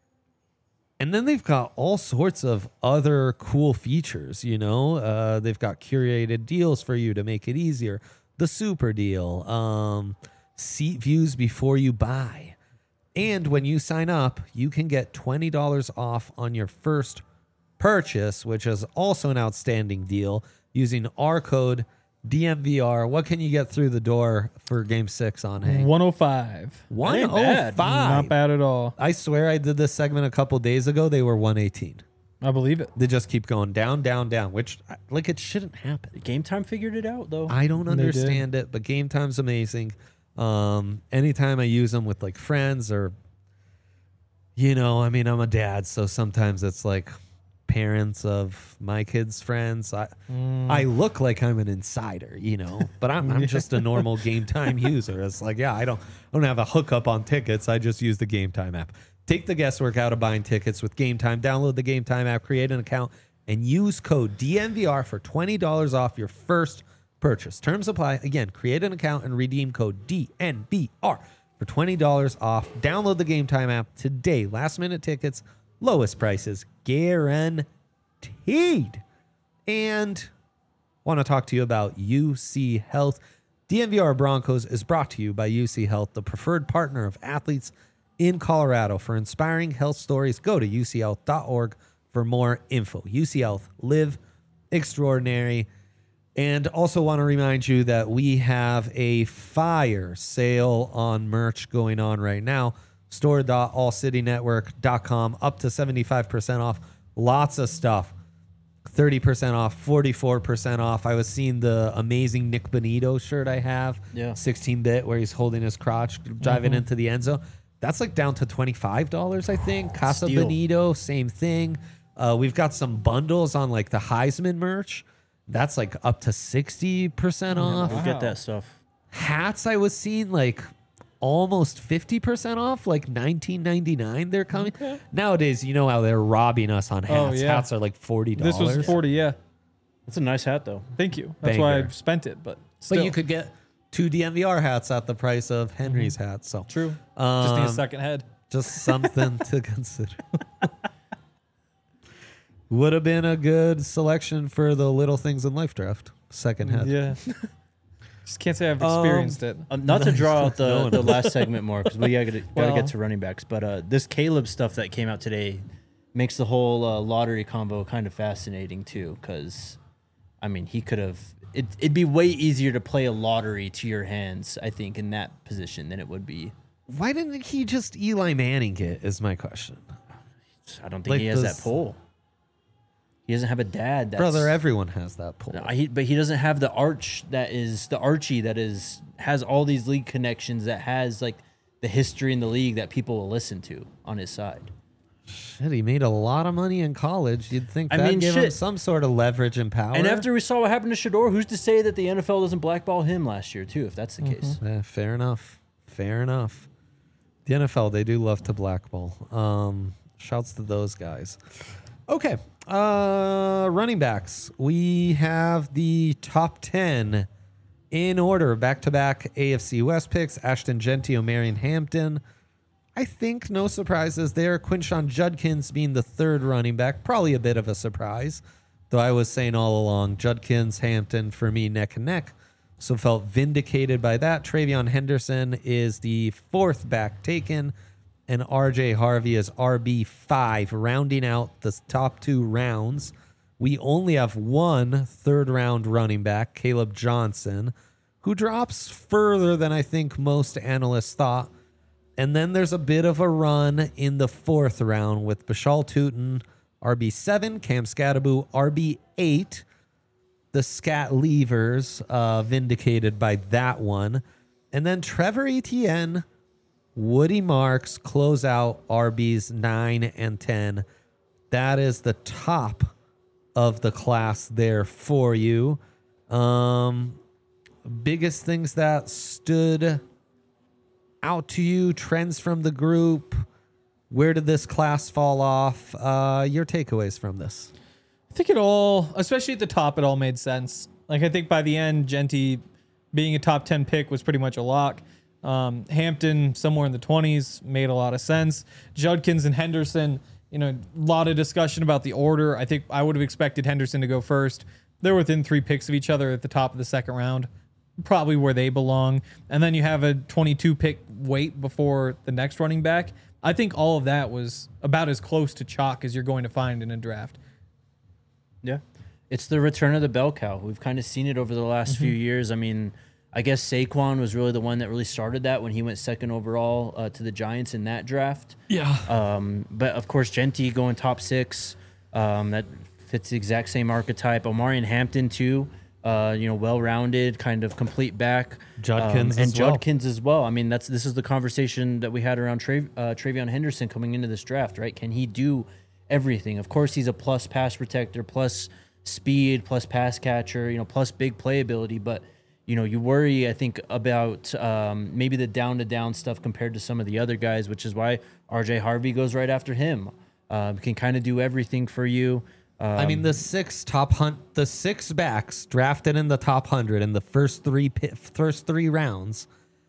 [SPEAKER 1] and then they've got all sorts of other cool features, you know. Uh, they've got curated deals for you to make it easier. The super deal, um, seat views before you buy. And when you sign up, you can get twenty dollars off on your first purchase, which is also an outstanding deal, using our code D M V R. What can you get through the door for game six on Hank?
[SPEAKER 2] one oh five.
[SPEAKER 1] one
[SPEAKER 3] ain't
[SPEAKER 1] oh
[SPEAKER 3] bad.
[SPEAKER 1] five.
[SPEAKER 2] Not bad at all.
[SPEAKER 1] I swear I did this segment a couple days ago. They were one eighteen.
[SPEAKER 2] I believe it.
[SPEAKER 1] They just keep going down, down, down, which, like, it shouldn't happen.
[SPEAKER 3] Game Time figured it out, though.
[SPEAKER 1] I don't
[SPEAKER 2] They did.
[SPEAKER 1] understand it, but Game Time's amazing. Um, anytime I use them with, like, friends or, you know, I mean, I'm a dad, so sometimes it's like parents of my kids' friends. I I look like I'm an insider, you know, but I'm, I'm just a normal Game Time user. It's like, yeah, I don't I don't have a hookup on tickets. I just use the Game Time app. Take the guesswork out of buying tickets with Game Time. Download the Game Time app, create an account, and use code D M V R for twenty dollars off your first purchase. Terms apply. Again, create an account and redeem code D N V R for twenty dollars off. Download the Game Time app today. Last minute tickets, lowest prices, guaranteed. And want to talk to you about U C Health. D M V R Broncos is brought to you by U C Health, the preferred partner of athletes in Colorado. For inspiring health stories, go to U C health dot org for more info. U C Health, live extraordinary. And also want to remind you that we have a fire sale on merch going on right now. store dot all city network dot com, up to seventy-five percent off. Lots of stuff. thirty percent off, forty-four percent off. I was seeing the amazing Nick Bonito shirt I have.
[SPEAKER 3] Yeah.
[SPEAKER 1] sixteen bit, where he's holding his crotch, driving mm-hmm. into the end zone. That's like down to twenty-five dollars, I think. Casa
[SPEAKER 3] Steal.
[SPEAKER 1] Bonito, same thing. Uh, we've got some bundles on like the Heisman merch. That's like up to sixty percent off.
[SPEAKER 3] We'll get that stuff.
[SPEAKER 1] Hats I was seeing like almost fifty percent off, like nineteen ninety-nine. They're coming. Okay. Nowadays, you know how they're robbing us on hats. Oh, yeah. Hats are like forty dollars.
[SPEAKER 2] This was forty, yeah.
[SPEAKER 3] That's a nice hat, though.
[SPEAKER 2] Thank you. That's Banger. why I spent it, but still.
[SPEAKER 1] But you could get two D M V R hats at the price of Henry's mm-hmm. hats. So
[SPEAKER 2] True.
[SPEAKER 1] Um,
[SPEAKER 2] just need a second head.
[SPEAKER 1] Just something to consider. Would have been a good selection for the Little Things in Life draft. Second head.
[SPEAKER 2] Yeah. Just can't say I've experienced
[SPEAKER 3] um,
[SPEAKER 2] it.
[SPEAKER 3] Um, not to draw out the, the last segment more, because we gotta, gotta well, get to running backs. But uh, this Caleb stuff that came out today makes the whole uh, lottery combo kind of fascinating too. Because, I mean, he could have. It, it'd be way easier to play a lottery to your hands, I think, in that position than it would be.
[SPEAKER 1] Why didn't he just Eli Manning it? Is my question.
[SPEAKER 3] I don't think like he has those, that pull. He doesn't have a dad. That's,
[SPEAKER 1] brother, everyone has that pull.
[SPEAKER 3] No, he, but he doesn't have the arch that is the Archie that is has all these league connections, that has like the history in the league that people will listen to on his side.
[SPEAKER 1] Shit, he made a lot of money in college. You'd think
[SPEAKER 3] I
[SPEAKER 1] that'd
[SPEAKER 3] mean,
[SPEAKER 1] give
[SPEAKER 3] shit.
[SPEAKER 1] him some sort of leverage and power.
[SPEAKER 3] And after we saw what happened to Shador, who's to say that the N F L doesn't blackball him last year too, if that's the mm-hmm. case?
[SPEAKER 1] Yeah, fair enough. Fair enough. The N F L, they do love to blackball. Um, shouts to those guys. Okay. Uh, running backs. We have the top ten in order, back-to-back A F C West picks. Ashton Genty, Omarion Hampton. I think no surprises there. Quinshon Judkins being the third running back. Probably a bit of a surprise, though I was saying all along, Judkins, Hampton, for me, neck and neck. So felt vindicated by that. Travion Henderson is the fourth back taken, and R J Harvey is R B five, rounding out the top two rounds. We only have one third-round running back, Caleb Johnson, who drops further than I think most analysts thought. And then there's a bit of a run in the fourth round with Bashal Tutin, R B seven, Cam Scattaboo, R B eight. The Scat Leavers uh, vindicated by that one. And then Trevor Etienne, Woody Marks close out R Bs nine and ten. That is the top of the class there for you. Um, biggest things that stood out to you, trends from the group. Where did this class fall off? Uh, your takeaways from this?
[SPEAKER 2] I think it all, especially at the top, it all made sense. Like, I think by the end, Genty being a top ten pick was pretty much a lock. Um, Hampton, somewhere in the twenties, made a lot of sense. Judkins and Henderson, you know, a lot of discussion about the order. I think I would have expected Henderson to go first. They're within three picks of each other at the top of the second round, probably where they belong. And then you have a twenty-two pick wait before the next running back. I think all of that was about as close to chalk as you're going to find in a draft.
[SPEAKER 3] Yeah. It's the return of the bell cow. We've kind of seen it over the last mm-hmm. few years. I mean, I guess Saquon was really the one that really started that when he went second overall uh, to the Giants in that draft.
[SPEAKER 1] Yeah.
[SPEAKER 3] Um, but, of course, Genty going top six. Um, that fits the exact same archetype. Omarion Hampton, too. Uh, you know, well-rounded, kind of complete back.
[SPEAKER 1] Judkins
[SPEAKER 3] um, and
[SPEAKER 1] as well.
[SPEAKER 3] Judkins as well. I mean, that's this is the conversation that we had around Tra- uh, Travion Henderson coming into this draft, right? Can he do everything? Of course, he's a plus pass protector, plus speed, plus pass catcher, you know, plus big playability. But, you know, you worry, I think, about um, maybe the down-to-down stuff compared to some of the other guys, which is why R J Harvey goes right after him. Uh, can kind of do everything for you. Um,
[SPEAKER 1] I mean, the six top hunt, the six backs drafted in the top hundred in the first three pit, first three rounds.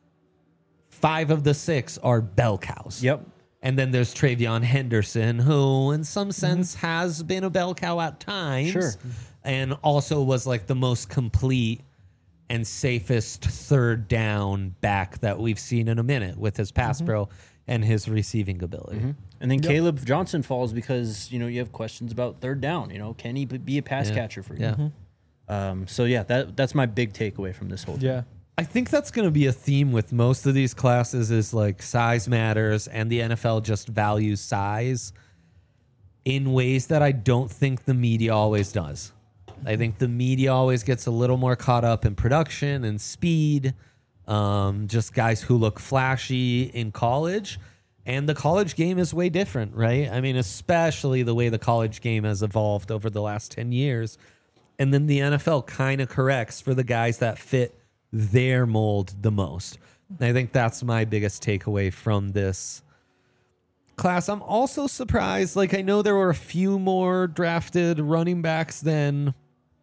[SPEAKER 1] Five of the six are bell cows.
[SPEAKER 3] Yep.
[SPEAKER 1] And then there's Travion Henderson, who in some sense mm-hmm. has been a bell cow at times.
[SPEAKER 3] Sure.
[SPEAKER 1] And also was like the most complete and safest third down back that we've seen in a minute with his pass mm-hmm. pro and his receiving ability.
[SPEAKER 3] Mm-hmm. And then
[SPEAKER 1] yep.
[SPEAKER 3] Caleb Johnson falls because, you know, you have questions about third down. You know, can he be a pass
[SPEAKER 1] yeah.
[SPEAKER 3] catcher for you?
[SPEAKER 1] Yeah. Mm-hmm.
[SPEAKER 3] Um, so yeah, that that's my big takeaway from this whole thing.
[SPEAKER 2] Yeah.
[SPEAKER 1] I think that's going to be a theme with most of these classes is like size matters, and the N F L just values size in ways that I don't think the media always does. I think the media always gets a little more caught up in production and speed, um, just guys who look flashy in college. And the college game is way different, right? I mean, especially the way the college game has evolved over the last ten years. And then the N F L kind of corrects for the guys that fit their mold the most. And I think that's my biggest takeaway from this class. I'm also surprised. Like, I know there were a few more drafted running backs than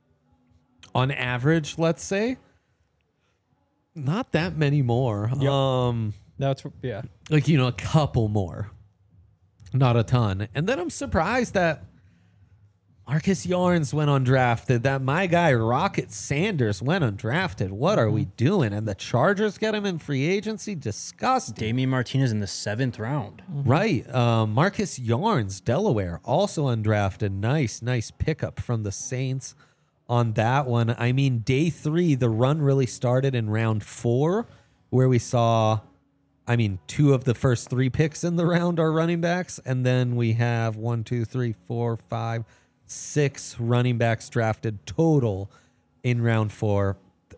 [SPEAKER 1] on average, let's say. Not that many more.
[SPEAKER 2] Yep.
[SPEAKER 1] Um,
[SPEAKER 2] That's yeah.
[SPEAKER 1] like, you know, a couple more. Not a ton. And then I'm surprised that Marcus Yarns went undrafted, that my guy Rocket Sanders went undrafted. What are we doing? And the Chargers get him in free agency? Disgusting.
[SPEAKER 3] Damian Martinez in the seventh round.
[SPEAKER 1] Right. Um, Marcus Yarns, Delaware, also undrafted. Nice, nice pickup from the Saints on that one. I mean, day three, the run really started in round four, where we saw, I mean, two of the first three picks in the round are running backs. And then we have one, two, three, four, five, six running backs drafted total in round four.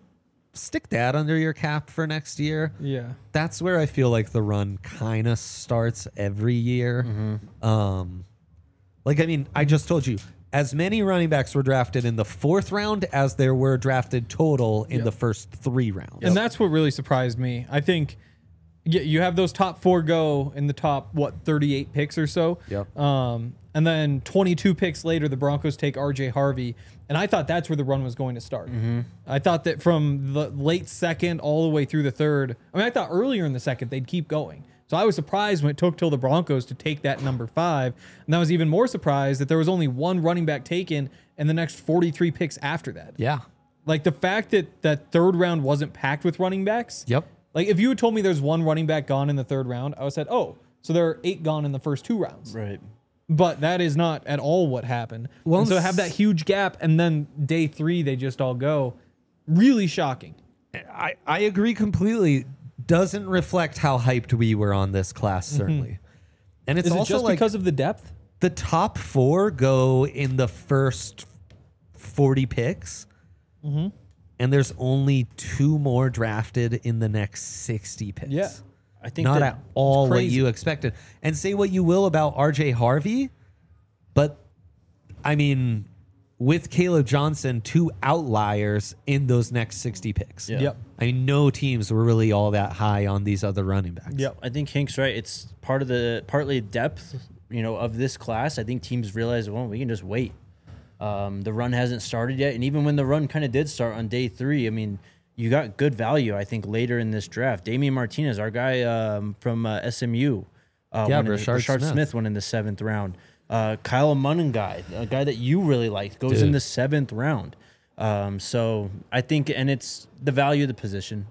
[SPEAKER 1] Stick that under your cap for next year.
[SPEAKER 2] Yeah.
[SPEAKER 1] That's where I feel like the run kind of starts every year.
[SPEAKER 3] Mm-hmm.
[SPEAKER 1] Um, like, I mean, I just told you, as many running backs were drafted in the fourth round as there were drafted total in
[SPEAKER 2] Yep.
[SPEAKER 1] the first three rounds.
[SPEAKER 2] And that's what really surprised me. I think y- you have those top four go in the top, what, thirty-eight picks or so.
[SPEAKER 1] Yep.
[SPEAKER 2] Um, and then twenty-two picks later, the Broncos take R J Harvey. And I thought that's where the run was going to start. I thought that from the late second all the way through the third. I mean, I thought earlier in the second they'd keep going. So I was surprised when it took till the Broncos to take that number five. And I was even more surprised that there was only one running back taken in the next forty-three picks after that.
[SPEAKER 1] Yeah.
[SPEAKER 2] Like the fact that that third round wasn't packed with running backs.
[SPEAKER 1] Yep.
[SPEAKER 2] Like if you had told me there's one running back gone in the third round, I would have said, oh, so there are eight gone in the first two rounds.
[SPEAKER 3] Right.
[SPEAKER 2] But that is not at all what happened.
[SPEAKER 1] Well,
[SPEAKER 2] And so to have that huge gap and then day three they just all go, really shocking.
[SPEAKER 1] I, I agree completely. Doesn't reflect how hyped we were on this class, certainly. And it's
[SPEAKER 2] Is it
[SPEAKER 1] also
[SPEAKER 2] just
[SPEAKER 1] like
[SPEAKER 2] because of the depth?
[SPEAKER 1] the top four go in the first forty picks.
[SPEAKER 2] Mm-hmm.
[SPEAKER 1] And there's only two more drafted in the next sixty picks.
[SPEAKER 2] Yeah.
[SPEAKER 3] I think
[SPEAKER 1] Not
[SPEAKER 3] that
[SPEAKER 1] at all what
[SPEAKER 2] crazy.
[SPEAKER 1] you expected. And say what you will about R J Harvey, but I mean, with Caleb Johnson, two outliers in those next sixty picks.
[SPEAKER 3] Yeah.
[SPEAKER 2] Yep.
[SPEAKER 1] I mean, no teams were really all that high on these other running backs.
[SPEAKER 2] Yep.
[SPEAKER 3] I think Hank's right. It's part of the partly depth, you know, of this class. I think teams realize, well, we can just wait. Um, the run hasn't started yet, and even when the run kind of did start on day three, I mean, you got good value. I think later in this draft, Damian Martinez, our guy um, from uh, S M U, uh,
[SPEAKER 1] Yeah,
[SPEAKER 3] went in the-
[SPEAKER 1] Rashard
[SPEAKER 3] Rashard
[SPEAKER 1] Smith.
[SPEAKER 3] Smith went in the seventh round. Uh, Kyle Munnin guy, a guy that you really liked, goes
[SPEAKER 1] Dude.
[SPEAKER 3] in the seventh round. Um, so I think, and it's the value of the position.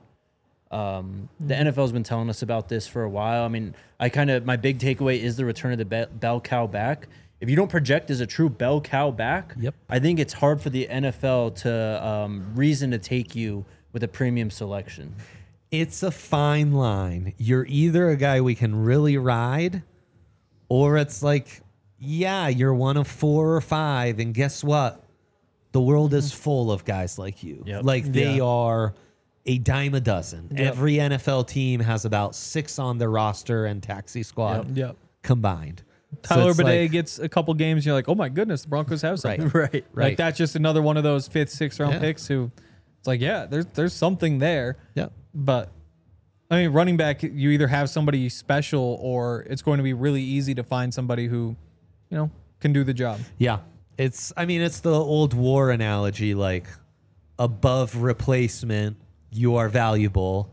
[SPEAKER 3] Um, the N F L's been telling us about this for a while. I mean, I kind of, my big takeaway is the return of the be- bell cow back. If you don't project as a true bell cow back,
[SPEAKER 1] Yep.
[SPEAKER 3] I think it's hard for the N F L to um, reason to take you with a premium selection.
[SPEAKER 1] It's a fine line. You're either a guy we can really ride, or it's like, yeah, you're one of four or five, and guess what? The world is full of guys like you.
[SPEAKER 3] Yep.
[SPEAKER 1] Like they
[SPEAKER 2] Yeah.
[SPEAKER 1] are a dime a dozen.
[SPEAKER 2] Yep.
[SPEAKER 1] Every N F L team has about six on their roster and taxi squad
[SPEAKER 2] Yep.
[SPEAKER 1] combined. So
[SPEAKER 2] Tyler
[SPEAKER 1] it's
[SPEAKER 2] Bidet
[SPEAKER 1] like-
[SPEAKER 2] gets a couple games. You're like, oh my goodness, the Broncos have something.
[SPEAKER 1] Right.
[SPEAKER 3] Right.
[SPEAKER 1] Right.
[SPEAKER 2] Like that's just another one of those fifth, sixth round
[SPEAKER 1] Yeah.
[SPEAKER 2] picks who it's like, yeah, there's there's something there.
[SPEAKER 1] Yeah.
[SPEAKER 2] But I mean, running back, you either have somebody special or it's going to be really easy to find somebody who, you know, can do the job.
[SPEAKER 1] Yeah. It's, I mean, it's the old war analogy, like above replacement, you are valuable.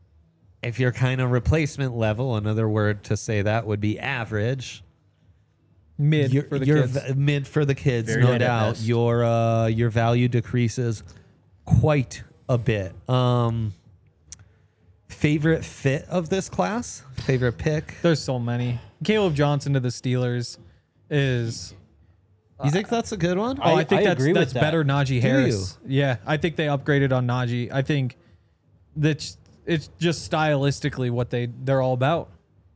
[SPEAKER 1] If you're kind of replacement level, another word to say that would be average.
[SPEAKER 2] Mid
[SPEAKER 1] You're,
[SPEAKER 2] for the
[SPEAKER 1] you're
[SPEAKER 2] kids.
[SPEAKER 1] v- mid for the kids,
[SPEAKER 3] Very
[SPEAKER 1] no
[SPEAKER 3] good at
[SPEAKER 1] doubt.
[SPEAKER 3] best.
[SPEAKER 1] Your uh, your value decreases quite a bit. Um, favorite fit of this class? Favorite pick?
[SPEAKER 2] There's so many. Caleb Johnson to the Steelers is
[SPEAKER 1] You think that's a good one?
[SPEAKER 2] Oh, I,
[SPEAKER 3] I-
[SPEAKER 2] think
[SPEAKER 3] I
[SPEAKER 2] that's
[SPEAKER 3] agree with
[SPEAKER 2] that's
[SPEAKER 3] that.
[SPEAKER 2] better Najee
[SPEAKER 1] Do
[SPEAKER 2] Harris. Yeah, I think they upgraded on Najee. I think that's it's just stylistically what they they're all about.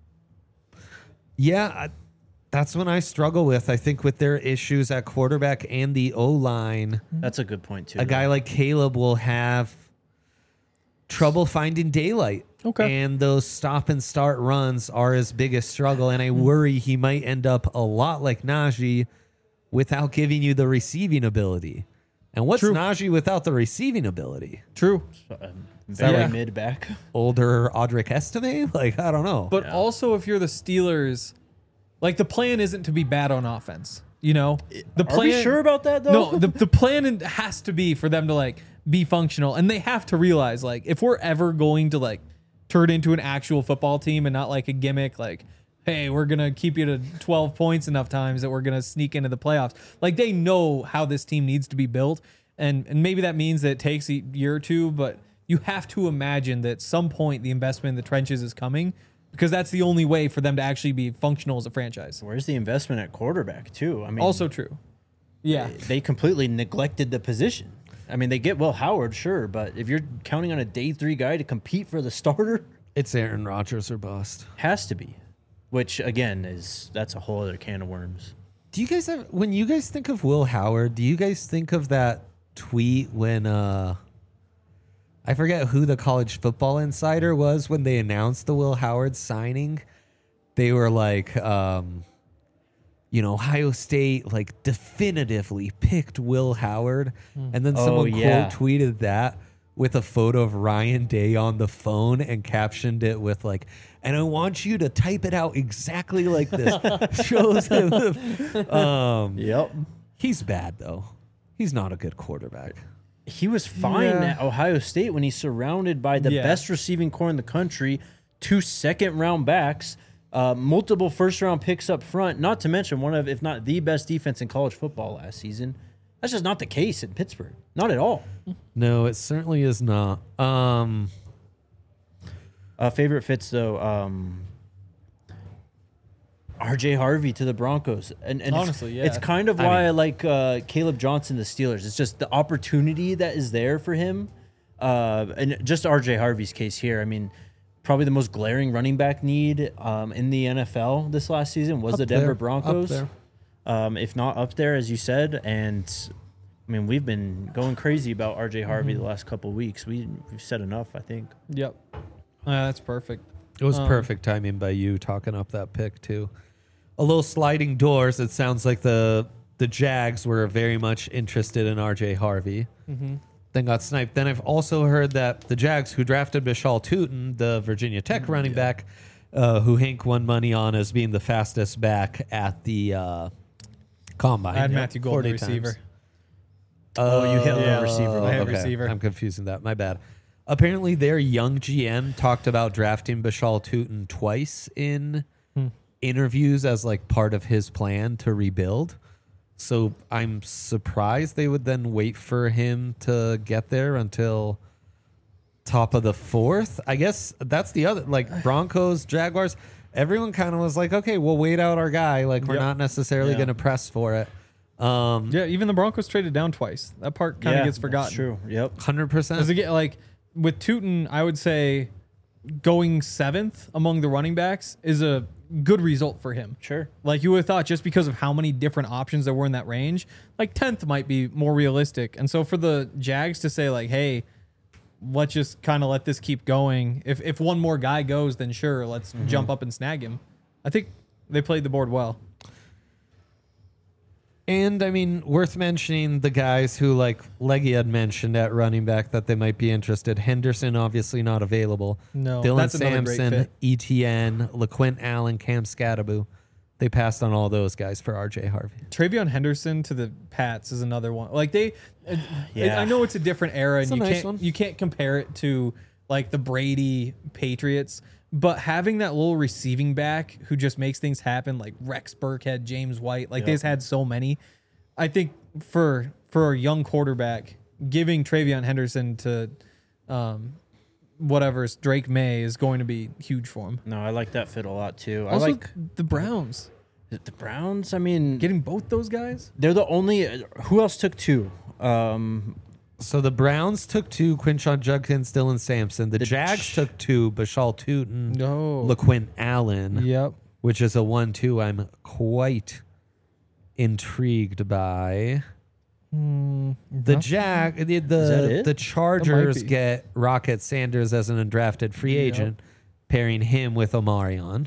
[SPEAKER 1] Yeah, I- that's when I struggle with. I think with their issues at quarterback and the O line,
[SPEAKER 3] That's a good point too.
[SPEAKER 1] a guy like Caleb will have trouble finding daylight.
[SPEAKER 2] Okay.
[SPEAKER 1] And those stop and start runs are his biggest struggle. And I worry he might end up a lot like Najee without giving you the receiving ability. And what's
[SPEAKER 2] True.
[SPEAKER 1] Najee without the receiving ability?
[SPEAKER 2] True.
[SPEAKER 3] Um, very
[SPEAKER 2] Yeah.
[SPEAKER 3] mid back.
[SPEAKER 1] Older Audric Estime? Like, I don't know.
[SPEAKER 2] But also, if you're the Steelers, like the plan isn't to be bad on offense. You know, the
[SPEAKER 3] Are we sure about that, though?
[SPEAKER 2] No, the the plan has to be for them to like be functional, and they have to realize like if we're ever going to like turn into an actual football team and not like a gimmick, like hey, we're gonna keep you to twelve points enough times that we're gonna sneak into the playoffs. Like they know how this team needs to be built, and and maybe that means that it takes a year or two, but you have to imagine that at some point the investment in the trenches is coming, because that's the only way for them to actually be functional as a franchise.
[SPEAKER 3] Where's the investment at quarterback too? I mean,
[SPEAKER 2] Also true. Yeah.
[SPEAKER 3] they completely neglected the position. I mean, they get Will Howard, sure, but if you're counting on a day three guy to compete for the starter,
[SPEAKER 1] It's Aaron Rodgers or bust.
[SPEAKER 3] has to be. Which again is that's a whole other can of worms.
[SPEAKER 1] Do you guys have, when you guys think of Will Howard, do you guys think of that tweet when uh I forget who the College Football Insider was when they announced the Will Howard signing? They were like, um, you know, Ohio State like definitively picked Will Howard, and then
[SPEAKER 3] Oh,
[SPEAKER 1] someone
[SPEAKER 3] yeah.
[SPEAKER 1] quote tweeted that with a photo of Ryan Day on the phone and captioned it with like, and I want you to type it out exactly like this. Shows him. the- um,
[SPEAKER 3] Yep.
[SPEAKER 1] he's bad though. He's not a good quarterback.
[SPEAKER 3] He was fine
[SPEAKER 2] Yeah.
[SPEAKER 3] at Ohio State when he's surrounded by the
[SPEAKER 2] Yeah.
[SPEAKER 3] best receiving core in the country, two second round backs, uh, multiple first round picks up front, not to mention one of, if not the best defense in college football last season. That's just not the case in Pittsburgh. Not at all.
[SPEAKER 1] No, it certainly is not. Um,
[SPEAKER 3] Uh, favorite fits though, um, R J Harvey to the Broncos, and, and
[SPEAKER 2] Honestly,
[SPEAKER 3] it's,
[SPEAKER 2] yeah.
[SPEAKER 3] it's kind of
[SPEAKER 1] I
[SPEAKER 3] why I,
[SPEAKER 1] mean-
[SPEAKER 3] like uh, Caleb Johnson, the Steelers. It's just the opportunity that is there for him, uh, and just R J Harvey's case here. I mean, probably the most glaring running back need um, in the N F L this last season was
[SPEAKER 1] Up
[SPEAKER 3] the Denver
[SPEAKER 1] there, up
[SPEAKER 3] Broncos,
[SPEAKER 1] there.
[SPEAKER 3] Um, if not up there, as you said. And I mean, we've been going crazy about R J Harvey
[SPEAKER 1] Mm-hmm.
[SPEAKER 3] the last couple of weeks. We, we've said enough, I think.
[SPEAKER 2] Yep. Uh, that's perfect.
[SPEAKER 1] it was
[SPEAKER 2] Um,
[SPEAKER 1] perfect timing by you talking up that pick too. A little sliding doors. It sounds like the the Jags were very much interested in R J Harvey.
[SPEAKER 2] Mm-hmm.
[SPEAKER 1] Then got sniped. Then I've also heard that the Jags, who drafted Bishal Tootin, the Virginia Tech running back, uh, who Hank won money on as being the fastest back at the uh, combine.
[SPEAKER 2] I had
[SPEAKER 1] Yep,
[SPEAKER 2] Matthew Golden, the
[SPEAKER 1] forty times.
[SPEAKER 2] receiver.
[SPEAKER 3] Oh, you hit
[SPEAKER 2] Yeah.
[SPEAKER 3] the receiver.
[SPEAKER 2] I hit
[SPEAKER 1] okay.
[SPEAKER 2] receiver.
[SPEAKER 1] I'm confusing that. My bad. Apparently, their young G M talked about drafting Bishal Tootin twice in
[SPEAKER 2] Hmm.
[SPEAKER 1] interviews as like part of his plan to rebuild. So I'm surprised they would then wait for him to get there until top of the fourth. I guess that's the other, like Broncos, Jaguars. Everyone kind of was like, okay, we'll wait out our guy. Like we're
[SPEAKER 2] Yep.
[SPEAKER 1] not necessarily
[SPEAKER 3] Yeah.
[SPEAKER 1] going to press for it. Um,
[SPEAKER 2] Yeah, even the Broncos traded down twice. That part kind of
[SPEAKER 3] Yeah,
[SPEAKER 2] gets forgotten.
[SPEAKER 3] That's true. Yep.
[SPEAKER 1] one hundred percent.
[SPEAKER 2] Because again, like with Tootin, I would say going seventh among the running backs is a good result for him.
[SPEAKER 3] Sure.
[SPEAKER 2] Like you would have thought, just because of how many different options there were in that range, like tenth might be more realistic. And so for the Jags to say like, hey, let's just kind of let this keep going. If if one more guy goes, then sure, let's jump up and snag him. I think they played the board well.
[SPEAKER 1] And I mean, worth mentioning the guys who, like Leggy had mentioned at running back, that they might be interested. Henderson, obviously not available.
[SPEAKER 2] No,
[SPEAKER 1] Dylan
[SPEAKER 2] that's another great
[SPEAKER 1] Sampson,
[SPEAKER 2] fit.
[SPEAKER 1] E T N, LaQuint Allen, Cam Scatterbu. They passed on all those guys for R J Harvey.
[SPEAKER 2] Travion Henderson to the Pats is another one. Like they,
[SPEAKER 3] Yeah.
[SPEAKER 2] I know it's a different era,
[SPEAKER 1] It's
[SPEAKER 2] and
[SPEAKER 1] a
[SPEAKER 2] you
[SPEAKER 1] nice
[SPEAKER 2] can't
[SPEAKER 1] one.
[SPEAKER 2] you can't compare it to like the Brady Patriots. But having that little receiving back who just makes things happen, like Rex Burkhead, James White, like
[SPEAKER 3] Yep.
[SPEAKER 2] they've had so many. I think for for a young quarterback, giving Travion Henderson to um, whatever's Drake May is going to be huge for him.
[SPEAKER 3] No, I like that fit a lot too. I
[SPEAKER 2] Also,
[SPEAKER 3] like
[SPEAKER 2] the Browns.
[SPEAKER 3] The, the Browns, I mean,
[SPEAKER 2] Getting both those guys?
[SPEAKER 3] they're the only. Who else took two? Um,
[SPEAKER 1] So the Browns took two, Quinshawn Judkins, Dylan Sampson. The,
[SPEAKER 3] The
[SPEAKER 1] Jags
[SPEAKER 3] J-
[SPEAKER 1] took two, Bashal Tootin,
[SPEAKER 2] No.
[SPEAKER 1] LaQuint Allen,
[SPEAKER 2] Yep.
[SPEAKER 1] which is a one two I'm quite intrigued by. The Jag, the
[SPEAKER 3] that
[SPEAKER 1] the,
[SPEAKER 3] it?
[SPEAKER 1] the Chargers
[SPEAKER 2] be.
[SPEAKER 1] get Rocket Sanders as an undrafted free agent, pairing him with Omarion.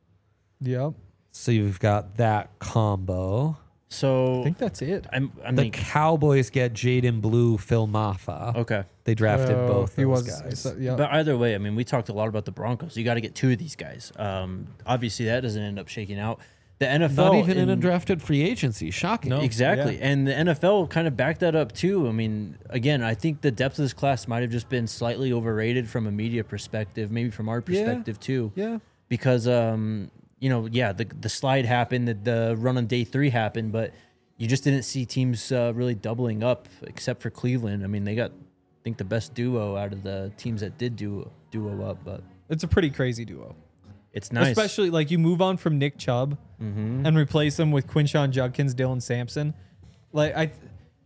[SPEAKER 2] Yep.
[SPEAKER 1] So you've got that combo.
[SPEAKER 3] so
[SPEAKER 2] I think that's it.
[SPEAKER 3] I'm, I
[SPEAKER 1] The
[SPEAKER 3] mean,
[SPEAKER 1] Cowboys get Jaden Blue, Phil Maffa.
[SPEAKER 3] okay.
[SPEAKER 1] They drafted
[SPEAKER 2] Oh,
[SPEAKER 1] both
[SPEAKER 2] he
[SPEAKER 1] those
[SPEAKER 2] was,
[SPEAKER 1] guys.
[SPEAKER 2] so- yep.
[SPEAKER 3] But either way, I mean, we talked a lot about the Broncos. You got to get two of these guys. Um, obviously, that doesn't end up shaking out. The N F L,
[SPEAKER 1] Not even in
[SPEAKER 3] in-
[SPEAKER 1] undrafted free agency. Shocking.
[SPEAKER 2] No.
[SPEAKER 3] Exactly.
[SPEAKER 2] Yeah.
[SPEAKER 3] And the N F L kind of backed that up too. I mean, again, I think the depth of this class might have just been slightly overrated from a media perspective, maybe from our
[SPEAKER 1] Yeah.
[SPEAKER 3] perspective too.
[SPEAKER 1] Yeah.
[SPEAKER 3] Because um, you know, yeah, the the slide happened, the, the run on day three happened, but you just didn't see teams uh, really doubling up except for Cleveland. I mean, they got I think the best duo out of the teams that did duo duo up, but
[SPEAKER 2] It's a pretty crazy duo.
[SPEAKER 3] it's nice.
[SPEAKER 2] Especially like you move on from Nick Chubb
[SPEAKER 3] Mm-hmm.
[SPEAKER 2] and replace him with Quinshawn Judkins, Dylan Sampson. Like I,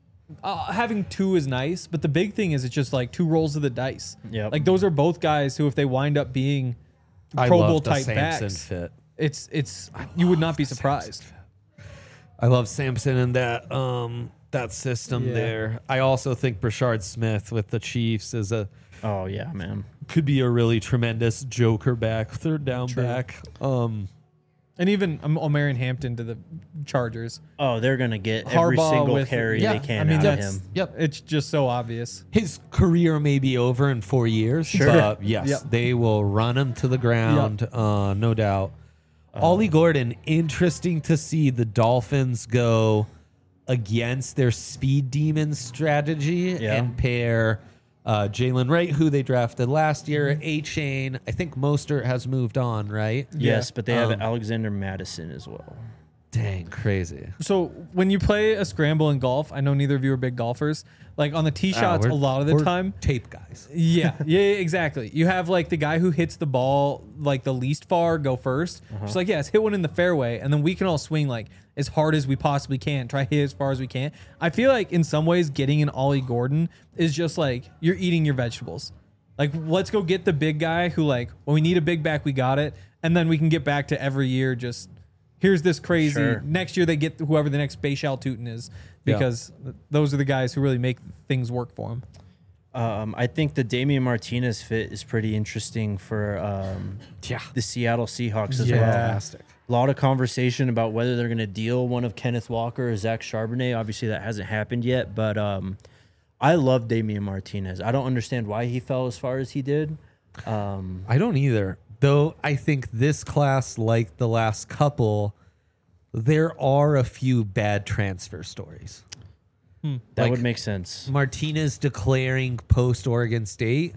[SPEAKER 2] uh, having two is nice, but the big thing is it's just like two rolls of the dice.
[SPEAKER 3] Yep.
[SPEAKER 2] Like those are both guys who, if they wind up being
[SPEAKER 1] I
[SPEAKER 2] Pro
[SPEAKER 1] love
[SPEAKER 2] Bowl
[SPEAKER 1] the
[SPEAKER 2] type
[SPEAKER 1] Sampson
[SPEAKER 2] backs,
[SPEAKER 1] fit.
[SPEAKER 2] it's it's you would not be
[SPEAKER 1] the
[SPEAKER 2] surprised.
[SPEAKER 1] Sampson I love Sampson in that um that system
[SPEAKER 2] Yeah.
[SPEAKER 1] there. I also think Brashard Smith with the Chiefs is a
[SPEAKER 3] Oh yeah, man.
[SPEAKER 1] could be a really tremendous joker back, third down
[SPEAKER 2] True.
[SPEAKER 1] back. Um
[SPEAKER 2] And even um, Omarion Hampton to the Chargers.
[SPEAKER 3] Oh, they're gonna get every
[SPEAKER 2] Harbaugh
[SPEAKER 3] single
[SPEAKER 2] with-
[SPEAKER 3] carry
[SPEAKER 1] yeah,
[SPEAKER 3] they can
[SPEAKER 2] I mean,
[SPEAKER 3] out of
[SPEAKER 2] that's
[SPEAKER 3] him.
[SPEAKER 1] Yep.
[SPEAKER 2] It's just so obvious.
[SPEAKER 1] His career may be over in four years,
[SPEAKER 3] Sure.
[SPEAKER 1] but yes,
[SPEAKER 2] Yep.
[SPEAKER 1] they will run him to the ground, uh, no doubt. Ollie Gordon, interesting to see the Dolphins go against their speed demon strategy
[SPEAKER 3] Yeah.
[SPEAKER 1] and pair uh, Jalen Wright, who they drafted last year, A Chain. I think Mostert has moved on, right?
[SPEAKER 3] Yes, but they have
[SPEAKER 1] Um,
[SPEAKER 3] Alexander Madison as well.
[SPEAKER 1] Dang, crazy.
[SPEAKER 2] So when you play a scramble in golf, I know neither of you are big golfers. Like on the tee
[SPEAKER 1] Ah,
[SPEAKER 2] shots,
[SPEAKER 1] we're-
[SPEAKER 2] a lot of the
[SPEAKER 1] we're
[SPEAKER 2] time,
[SPEAKER 1] tape guys.
[SPEAKER 2] yeah, yeah, yeah, exactly. You have like the guy who hits the ball like the least far go 1st Just like, yes, hit one in the fairway, and then we can all swing like as hard as we possibly can. Try hit as far as we can. I feel like in some ways, getting an Ollie Gordon is just like you're eating your vegetables. Like, let's go get the big guy who like when we need a big back, we got it, and then we can get back to every year just. Here's this crazy.
[SPEAKER 3] Sure.
[SPEAKER 2] Next year they get whoever the next Bashal Tootin is
[SPEAKER 1] Yeah.
[SPEAKER 2] because th- those are the guys who really make things work for him.
[SPEAKER 3] Um, I think the Damian Martinez fit is pretty interesting for um,
[SPEAKER 1] Yeah.
[SPEAKER 3] the Seattle Seahawks as
[SPEAKER 2] Yeah.
[SPEAKER 3] well.
[SPEAKER 1] Fantastic.
[SPEAKER 3] A lot of conversation about whether they're going to deal one of Kenneth Walker or Zach Charbonnet. Obviously, that hasn't happened yet, but um, I love Damian Martinez. I don't understand why he fell as far as he did. Um,
[SPEAKER 1] I don't either. Though I think this class, like the last couple, there are a few bad transfer stories.
[SPEAKER 3] that
[SPEAKER 1] Like-
[SPEAKER 3] would make sense.
[SPEAKER 1] Martinez declaring post Oregon State.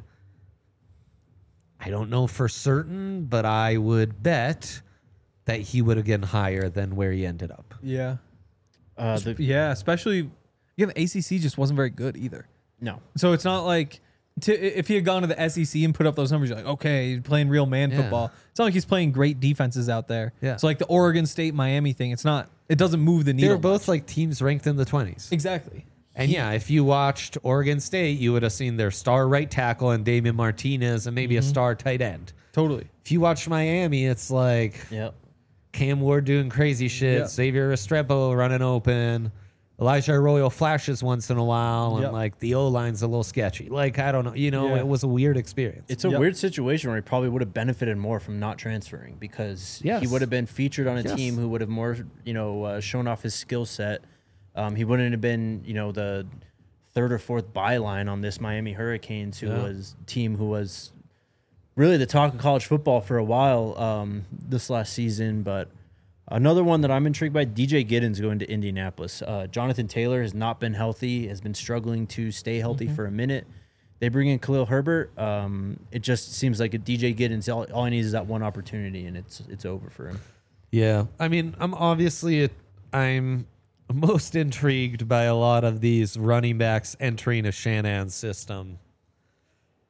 [SPEAKER 1] I don't know for certain, but I would bet that he would have gotten higher than where he ended up.
[SPEAKER 2] Yeah.
[SPEAKER 3] Uh, the,
[SPEAKER 2] Yeah, especially again, the A C C just wasn't very good either.
[SPEAKER 3] no,
[SPEAKER 2] So it's not like to, if he had gone to the S E C and put up those numbers, you're like, okay, he's playing real man
[SPEAKER 1] Yeah.
[SPEAKER 2] football. It's not like he's playing great defenses out there.
[SPEAKER 1] Yeah.
[SPEAKER 2] So like the Oregon State Miami thing, it's not. It doesn't move the
[SPEAKER 1] They
[SPEAKER 2] needle.
[SPEAKER 1] were both like teams ranked in the twenties.
[SPEAKER 2] exactly.
[SPEAKER 1] And yeah, if you watched Oregon State, you would have seen their star right tackle and Damian Martinez and maybe a star tight end.
[SPEAKER 2] Totally.
[SPEAKER 1] If you watch Miami, it's like
[SPEAKER 3] yep.
[SPEAKER 1] Cam Ward doing crazy shit,
[SPEAKER 2] Yeah.
[SPEAKER 1] Xavier Restrepo running open, Elijah Arroyo flashes once in a while, and
[SPEAKER 2] Yep.
[SPEAKER 1] like the O line's a little sketchy. Like I don't know, you know,
[SPEAKER 2] Yeah.
[SPEAKER 1] it was a weird experience.
[SPEAKER 3] It's a
[SPEAKER 2] Yep.
[SPEAKER 3] weird situation where he probably would have benefited more from not transferring because
[SPEAKER 1] Yes.
[SPEAKER 3] he would have been featured on a
[SPEAKER 1] Yes.
[SPEAKER 3] team who would have more, you know, uh, shown off his skill set. Um, he wouldn't have been, you know, the third or fourth byline on this Miami Hurricanes, who
[SPEAKER 1] Yeah.
[SPEAKER 3] was team who was really the talk of college football for a while um, this last season. But another one that I'm intrigued by, D J Giddens going to Indianapolis. Uh, Jonathan Taylor has not been healthy, has been struggling to stay healthy for a minute. They bring in Khalil Herbert. Um, it just seems like a D J Giddens, all, all he needs is that one opportunity, and it's it's over for him.
[SPEAKER 1] Yeah, I mean, I'm obviously I'm most intrigued by a lot of these running backs entering a Shanahan system.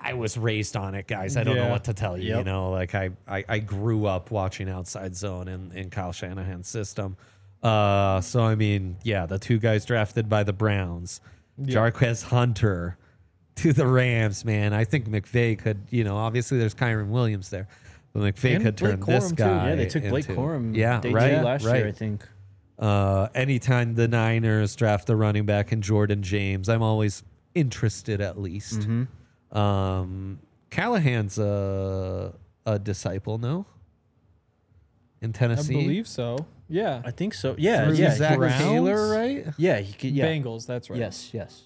[SPEAKER 1] I was raised on it, guys. I don't know
[SPEAKER 2] Yeah.
[SPEAKER 1] what to tell you. You
[SPEAKER 3] Yep.
[SPEAKER 1] know, like I, I, I grew up watching Outside Zone in, in Kyle Shanahan's system. Uh, so I mean, yeah, the two guys drafted by the Browns, Jarquez Hunter to the Rams, man. I think McVay could, you know, obviously there's Kyron Williams there, but McVay
[SPEAKER 2] And
[SPEAKER 1] could turn
[SPEAKER 2] Blake
[SPEAKER 1] this
[SPEAKER 2] Corum, too.
[SPEAKER 1] guy.
[SPEAKER 3] Yeah, they took Blake
[SPEAKER 1] into-
[SPEAKER 3] Corum.
[SPEAKER 1] Yeah,
[SPEAKER 3] day
[SPEAKER 1] right,
[SPEAKER 3] two last
[SPEAKER 1] right.
[SPEAKER 3] year, I think.
[SPEAKER 1] Uh, anytime the Niners draft a running back in Jordan James, I'm always interested at least.
[SPEAKER 3] Mm-hmm.
[SPEAKER 1] Um, Callahan's a, a disciple, no? In
[SPEAKER 2] I
[SPEAKER 1] Tennessee?
[SPEAKER 2] believe so. Yeah.
[SPEAKER 3] I think so. Yeah,
[SPEAKER 1] Through
[SPEAKER 3] yeah,
[SPEAKER 1] Zach
[SPEAKER 2] Browns?
[SPEAKER 1] Taylor, right?
[SPEAKER 3] yeah. He could. Yeah.
[SPEAKER 2] Bengals, that's right.
[SPEAKER 3] Yes, yes.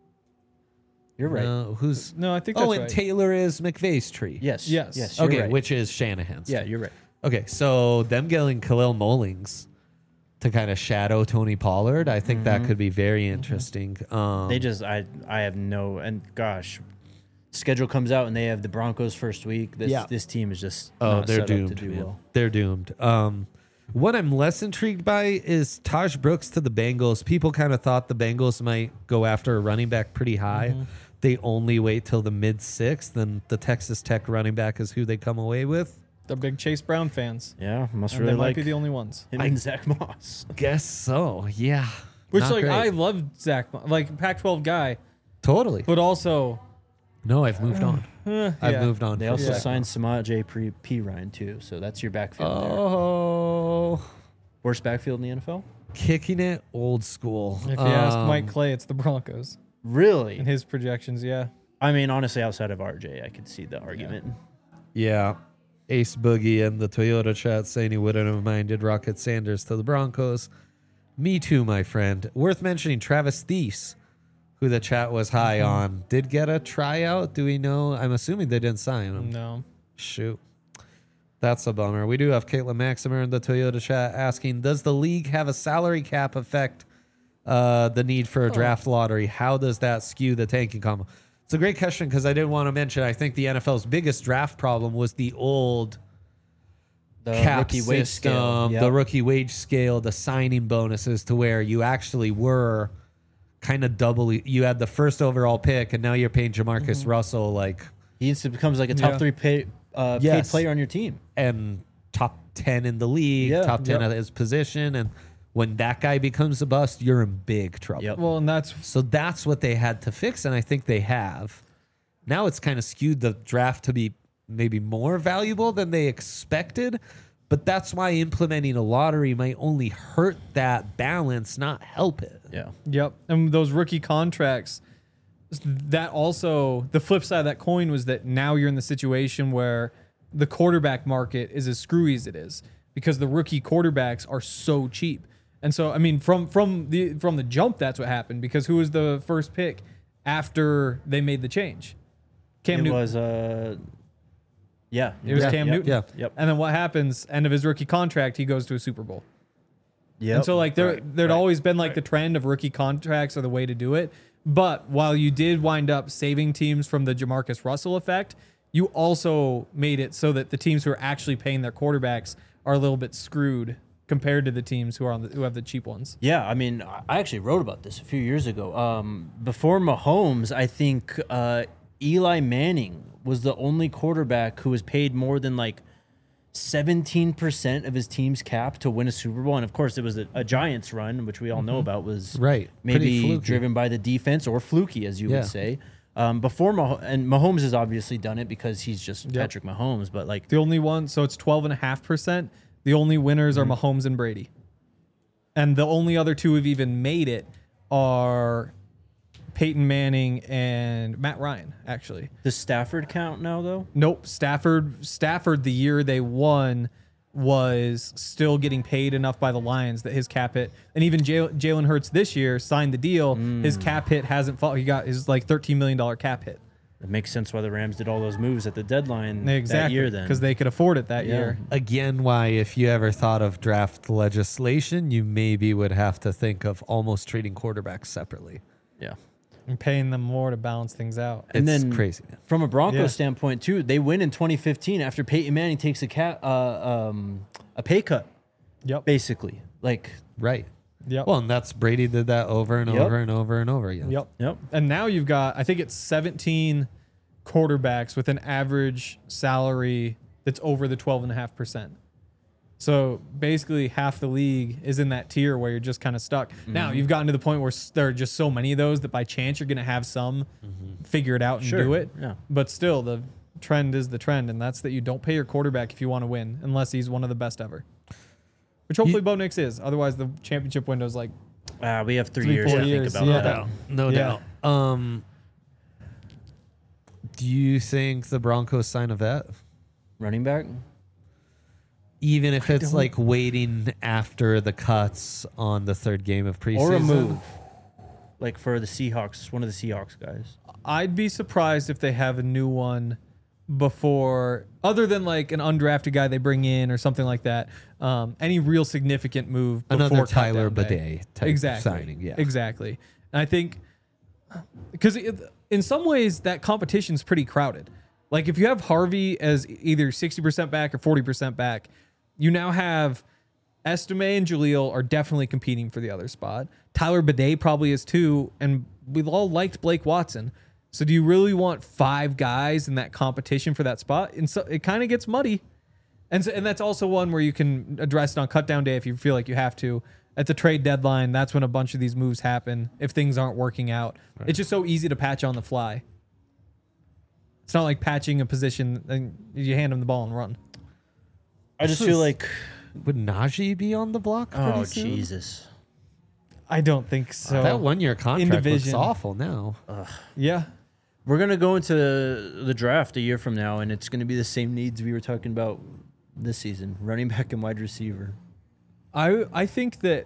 [SPEAKER 3] You're right.
[SPEAKER 1] No, who's...
[SPEAKER 2] No, I think
[SPEAKER 1] Oh,
[SPEAKER 2] that's
[SPEAKER 1] and
[SPEAKER 2] right.
[SPEAKER 1] Taylor is McVay's tree.
[SPEAKER 3] Yes.
[SPEAKER 2] Yes.
[SPEAKER 3] Yes. You're
[SPEAKER 1] Okay,
[SPEAKER 3] right.
[SPEAKER 1] which is Shanahan's.
[SPEAKER 3] Yeah, you're right.
[SPEAKER 1] Okay, so them getting Khalil Mullings to kind of shadow Tony Pollard, I think that could be very interesting. Um,
[SPEAKER 3] They just, I, I have no, and gosh, schedule comes out and they have the Broncos first week. This,
[SPEAKER 1] Yeah.
[SPEAKER 3] this team is just
[SPEAKER 1] Oh,
[SPEAKER 3] not
[SPEAKER 1] they're
[SPEAKER 3] set
[SPEAKER 1] doomed.
[SPEAKER 3] up to do
[SPEAKER 1] man.
[SPEAKER 3] well.
[SPEAKER 1] They're doomed. Um, what I'm less intrigued by is Taj Brooks to the Bengals. People kind of thought the Bengals might go after a running back pretty high.
[SPEAKER 3] Mm-hmm.
[SPEAKER 1] They only wait till the mid sixth, and the Texas Tech running back is who they come away with.
[SPEAKER 2] The big Chase Brown fans.
[SPEAKER 3] Yeah, must
[SPEAKER 2] And
[SPEAKER 3] really
[SPEAKER 2] they might
[SPEAKER 3] like
[SPEAKER 2] be the only ones.
[SPEAKER 3] him and Zach Moss.
[SPEAKER 1] Guess so. Yeah.
[SPEAKER 2] Which,
[SPEAKER 1] Not
[SPEAKER 2] like,
[SPEAKER 1] great.
[SPEAKER 2] I love Zach, Mo- like, Pac twelve guy,
[SPEAKER 1] totally.
[SPEAKER 2] but also,
[SPEAKER 1] No, I've moved on.
[SPEAKER 2] eh,
[SPEAKER 1] I've
[SPEAKER 2] yeah.
[SPEAKER 1] moved on.
[SPEAKER 3] They
[SPEAKER 1] from
[SPEAKER 3] also
[SPEAKER 1] Zach.
[SPEAKER 3] signed Samaj J. P. P. Ryan too, so that's your backfield there.
[SPEAKER 1] Oh,
[SPEAKER 3] Worst backfield in the N F L?
[SPEAKER 1] kicking it old school.
[SPEAKER 2] If you ask
[SPEAKER 1] Um,
[SPEAKER 2] Mike Clay, it's the Broncos.
[SPEAKER 3] Really?
[SPEAKER 2] In his projections, yeah.
[SPEAKER 3] I mean, honestly, outside of R J, I could see the argument.
[SPEAKER 1] Yeah. Ace Boogie and the Toyota chat saying he wouldn't have minded Rocket Sanders to the Broncos. Me too, my friend. Worth mentioning Travis Thies, who the chat was high
[SPEAKER 2] Mm-hmm.
[SPEAKER 1] on, did get a tryout. Do we know? I'm assuming they didn't sign him.
[SPEAKER 2] No.
[SPEAKER 1] Shoot. That's a bummer. We do have Caitlin Maximer in the Toyota chat asking, does the league have a salary cap affect uh, the need for a draft lottery? How does that skew the tanking combo? It's a great question because I did want to mention, I think the N F L's biggest draft problem was the old
[SPEAKER 3] The
[SPEAKER 1] cap
[SPEAKER 3] rookie wage
[SPEAKER 1] system,
[SPEAKER 3] scale. Yep.
[SPEAKER 1] the rookie wage scale, the signing bonuses to where you actually were kind of double. You had the first overall pick and now you're paying Jamarcus
[SPEAKER 3] Mm-hmm.
[SPEAKER 1] Russell like
[SPEAKER 3] He instantly becomes like a top
[SPEAKER 2] Yeah.
[SPEAKER 3] three pay, uh,
[SPEAKER 1] Yes.
[SPEAKER 3] paid player on your team.
[SPEAKER 1] and top ten in the league,
[SPEAKER 3] Yeah,
[SPEAKER 1] top ten
[SPEAKER 2] yep.
[SPEAKER 1] at his position. And when that guy becomes a bust, you're in big trouble.
[SPEAKER 3] Yep.
[SPEAKER 2] Well, and that's
[SPEAKER 1] So that's what they had to fix, and I think they have. Now it's kind of skewed the draft to be maybe more valuable than they expected, but that's why implementing a lottery might only hurt that balance, not help it.
[SPEAKER 3] Yeah.
[SPEAKER 2] Yep. And those rookie contracts, that also, the flip side of that coin was that now you're in the situation where the quarterback market is as screwy as it is because the rookie quarterbacks are so cheap. And so, I mean, from from the from the jump, that's what happened because who was the first pick after they made the change? Cam
[SPEAKER 3] it
[SPEAKER 2] Newton.
[SPEAKER 3] was, uh, yeah.
[SPEAKER 2] It was
[SPEAKER 1] Yeah,
[SPEAKER 2] Cam
[SPEAKER 3] yep,
[SPEAKER 2] Newton.
[SPEAKER 1] yeah.
[SPEAKER 3] Yep.
[SPEAKER 2] And then what happens? End of his rookie contract, he goes to a Super Bowl.
[SPEAKER 3] Yep.
[SPEAKER 2] And so like there
[SPEAKER 3] Right,
[SPEAKER 2] there'd
[SPEAKER 3] right,
[SPEAKER 2] always been like
[SPEAKER 3] right.
[SPEAKER 2] the trend of rookie contracts are the way to do it. But while you did wind up saving teams from the Jamarcus Russell effect, you also made it so that the teams who are actually paying their quarterbacks are a little bit screwed compared to the teams who are on the, who have the cheap ones.
[SPEAKER 3] Yeah, I mean, I actually wrote about this a few years ago. Um, before Mahomes, I think uh, Eli Manning was the only quarterback who was paid more than like seventeen percent of his team's cap to win a Super Bowl. And of course, it was a, a Giants run, which we all know about, was
[SPEAKER 1] Right. Pretty
[SPEAKER 3] maybe
[SPEAKER 1] fluky.
[SPEAKER 3] driven by the defense or fluky, as you
[SPEAKER 1] Yeah.
[SPEAKER 3] would say. Um, before Mah- and Mahomes has obviously done it because he's just Patrick Mahomes, but like
[SPEAKER 2] The only one, so it's twelve point five percent. The only winners
[SPEAKER 3] Mm-hmm.
[SPEAKER 2] are Mahomes and Brady. And the only other two who've even made it are Peyton Manning and Matt Ryan, actually.
[SPEAKER 3] does Stafford count now though?
[SPEAKER 2] Nope. Stafford Stafford the year they won was still getting paid enough by the Lions that his cap hit. And even Jal- Jalen Hurts this year signed the deal. His cap hit hasn't fallen. He got his like thirteen million dollars cap hit.
[SPEAKER 3] It makes sense why the Rams did all those moves at the deadline that
[SPEAKER 2] Exactly.
[SPEAKER 3] year then.
[SPEAKER 2] Because they could afford it that
[SPEAKER 3] Yeah.
[SPEAKER 2] year.
[SPEAKER 1] Again, why, if you ever thought of draft legislation, you maybe would have to think of almost treating quarterbacks separately.
[SPEAKER 3] yeah.
[SPEAKER 2] And paying them more to balance things out.
[SPEAKER 3] And
[SPEAKER 1] It's
[SPEAKER 3] then
[SPEAKER 1] crazy, man.
[SPEAKER 3] From a Broncos
[SPEAKER 2] Yeah.
[SPEAKER 3] standpoint too, they win in twenty fifteen after Peyton Manning takes a cat uh, um, a pay cut,
[SPEAKER 2] Yep.
[SPEAKER 3] basically. Like,
[SPEAKER 1] Right.
[SPEAKER 2] Yep.
[SPEAKER 1] Well, and that's Brady did that over and
[SPEAKER 3] Yep.
[SPEAKER 1] over and over and over again.
[SPEAKER 2] Yep.
[SPEAKER 3] yep,
[SPEAKER 2] And now you've got, I think it's seventeen quarterbacks with an average salary that's over the twelve point five percent. So basically half the league is in that tier where you're just kind of stuck. Mm-hmm. Now you've gotten to the point where there are just so many of those that by chance you're going to have some mm-hmm. figure it out and
[SPEAKER 3] sure.
[SPEAKER 2] do it.
[SPEAKER 3] Yeah.
[SPEAKER 2] But still, the trend is the trend, and that's that you don't pay your quarterback if you want to win unless he's one of the best ever. Which hopefully you, Bo Nix is. Otherwise, the championship window is like...
[SPEAKER 3] Uh, we have three,
[SPEAKER 2] three
[SPEAKER 3] years to
[SPEAKER 2] years.
[SPEAKER 3] think about
[SPEAKER 2] Yeah.
[SPEAKER 3] that.
[SPEAKER 1] No
[SPEAKER 2] Yeah.
[SPEAKER 1] doubt. Um, do you think the Broncos sign a vet?
[SPEAKER 3] Running back?
[SPEAKER 1] Even if
[SPEAKER 2] I
[SPEAKER 1] it's
[SPEAKER 2] don't-
[SPEAKER 1] like waiting after the cuts on the third game of preseason?
[SPEAKER 3] Or a move. Like for the Seahawks, one of the Seahawks guys.
[SPEAKER 2] I'd be surprised if they have a new one before, other than like an undrafted guy they bring in or something like that. Um, any real significant move before
[SPEAKER 1] Another Tyler
[SPEAKER 2] cutdown day.
[SPEAKER 1] Bidet type
[SPEAKER 2] exactly.
[SPEAKER 1] signing. Yeah.
[SPEAKER 2] Exactly. And I think, because in some ways that competition's pretty crowded. Like if you have Harvey as either sixty percent back or forty percent back, you now have Estime and Jaleel are definitely competing for the other spot. Tyler Bidet probably is too, and we've all liked Blake Watson. So do you really want five guys in that competition for that spot? And so it kind of gets muddy. And so, and that's also one where you can address it on cut down day if you feel like you have to. At the trade deadline, that's when a bunch of these moves happen if things aren't working out. Right. It's just so easy to patch on the fly. It's not like patching a position and you hand them the ball and run.
[SPEAKER 3] I just feel like...
[SPEAKER 1] Would Najee be on the block?
[SPEAKER 3] Oh,
[SPEAKER 1] soon?
[SPEAKER 3] Jesus.
[SPEAKER 2] I don't think so.
[SPEAKER 1] Uh, that one-year contract looks
[SPEAKER 2] division.
[SPEAKER 1] awful now.
[SPEAKER 3] Ugh.
[SPEAKER 2] Yeah.
[SPEAKER 3] We're going to go into the draft a year from now, and it's going to be the same needs we were talking about this season. Running back and wide receiver.
[SPEAKER 2] I I think that,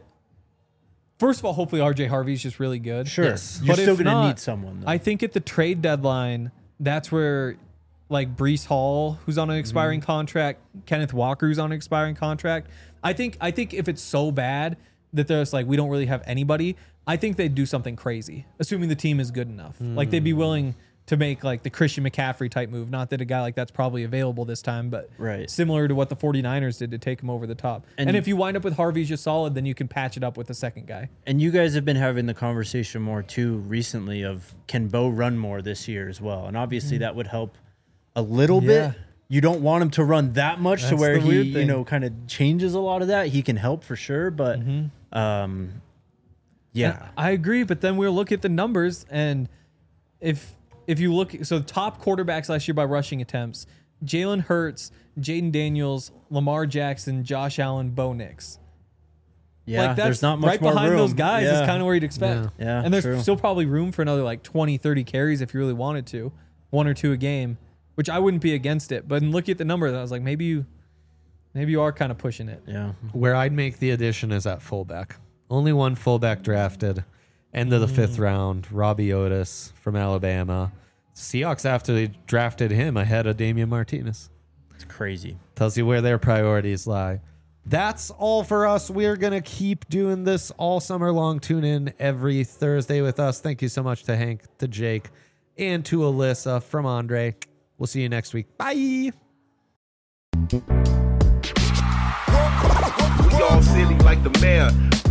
[SPEAKER 2] first of all, hopefully R J Harvey's just really good.
[SPEAKER 3] Sure.
[SPEAKER 1] Yes.
[SPEAKER 3] You're
[SPEAKER 2] But
[SPEAKER 3] still
[SPEAKER 2] if
[SPEAKER 3] going to
[SPEAKER 2] not,
[SPEAKER 3] need someone, though.
[SPEAKER 2] I think at the trade deadline, that's where like Breece Hall, who's on an expiring mm-hmm. contract, Kenneth Walker, who's on an expiring contract. I think I think if it's so bad that there's like we don't really have anybody, I think they'd do something crazy, assuming the team is good enough. Mm. Like they'd be willing to make like the Christian McCaffrey type move. Not that a guy like that's probably available this time, but
[SPEAKER 3] right.
[SPEAKER 2] similar to what the 49ers did to take him over the top. And, and if you wind up with Harvey's just solid, then you can patch it up with the second guy.
[SPEAKER 3] And you guys have been having the conversation more too recently of can Bo run more this year as well? And obviously mm. that would help a little
[SPEAKER 2] Yeah.
[SPEAKER 3] bit. You don't want him to run that much
[SPEAKER 2] That's
[SPEAKER 3] to where
[SPEAKER 2] the
[SPEAKER 3] he,
[SPEAKER 2] weird
[SPEAKER 3] you
[SPEAKER 2] thing.
[SPEAKER 3] know, kind of changes a lot of that. He can help for sure, but
[SPEAKER 2] Mm-hmm.
[SPEAKER 3] um, yeah,
[SPEAKER 2] And I agree. But then we'll look at the numbers, and if if you look, so top quarterbacks last year by rushing attempts: Jalen Hurts, Jaden Daniels, Lamar Jackson, Josh Allen, Bo Nix.
[SPEAKER 3] yeah.
[SPEAKER 2] Like that's
[SPEAKER 3] there's not much
[SPEAKER 2] right
[SPEAKER 3] more
[SPEAKER 2] behind
[SPEAKER 3] room.
[SPEAKER 2] those guys
[SPEAKER 3] yeah.
[SPEAKER 2] is kind of where you'd expect.
[SPEAKER 3] Yeah. Yeah,
[SPEAKER 2] and there's
[SPEAKER 3] true.
[SPEAKER 2] still probably room for another like twenty, thirty carries if you really wanted to, one or two a game, which I wouldn't be against it. But in looking at the numbers, I was like, maybe you, maybe you are kind of pushing it.
[SPEAKER 3] yeah.
[SPEAKER 1] Where I'd make the addition is at fullback. Only one fullback drafted. End of the mm. fifth round. Robbie Otis from Alabama. Seahawks after they drafted him ahead of Damian Martinez.
[SPEAKER 3] It's crazy.
[SPEAKER 1] Tells you where their priorities lie. That's all for us. We're going to keep doing this all summer long. Tune in every Thursday with us. Thank you so much to Hank, to Jake, and to Alyssa from Andre. We'll see you next week. Bye.
[SPEAKER 4] We all silly like the mayor.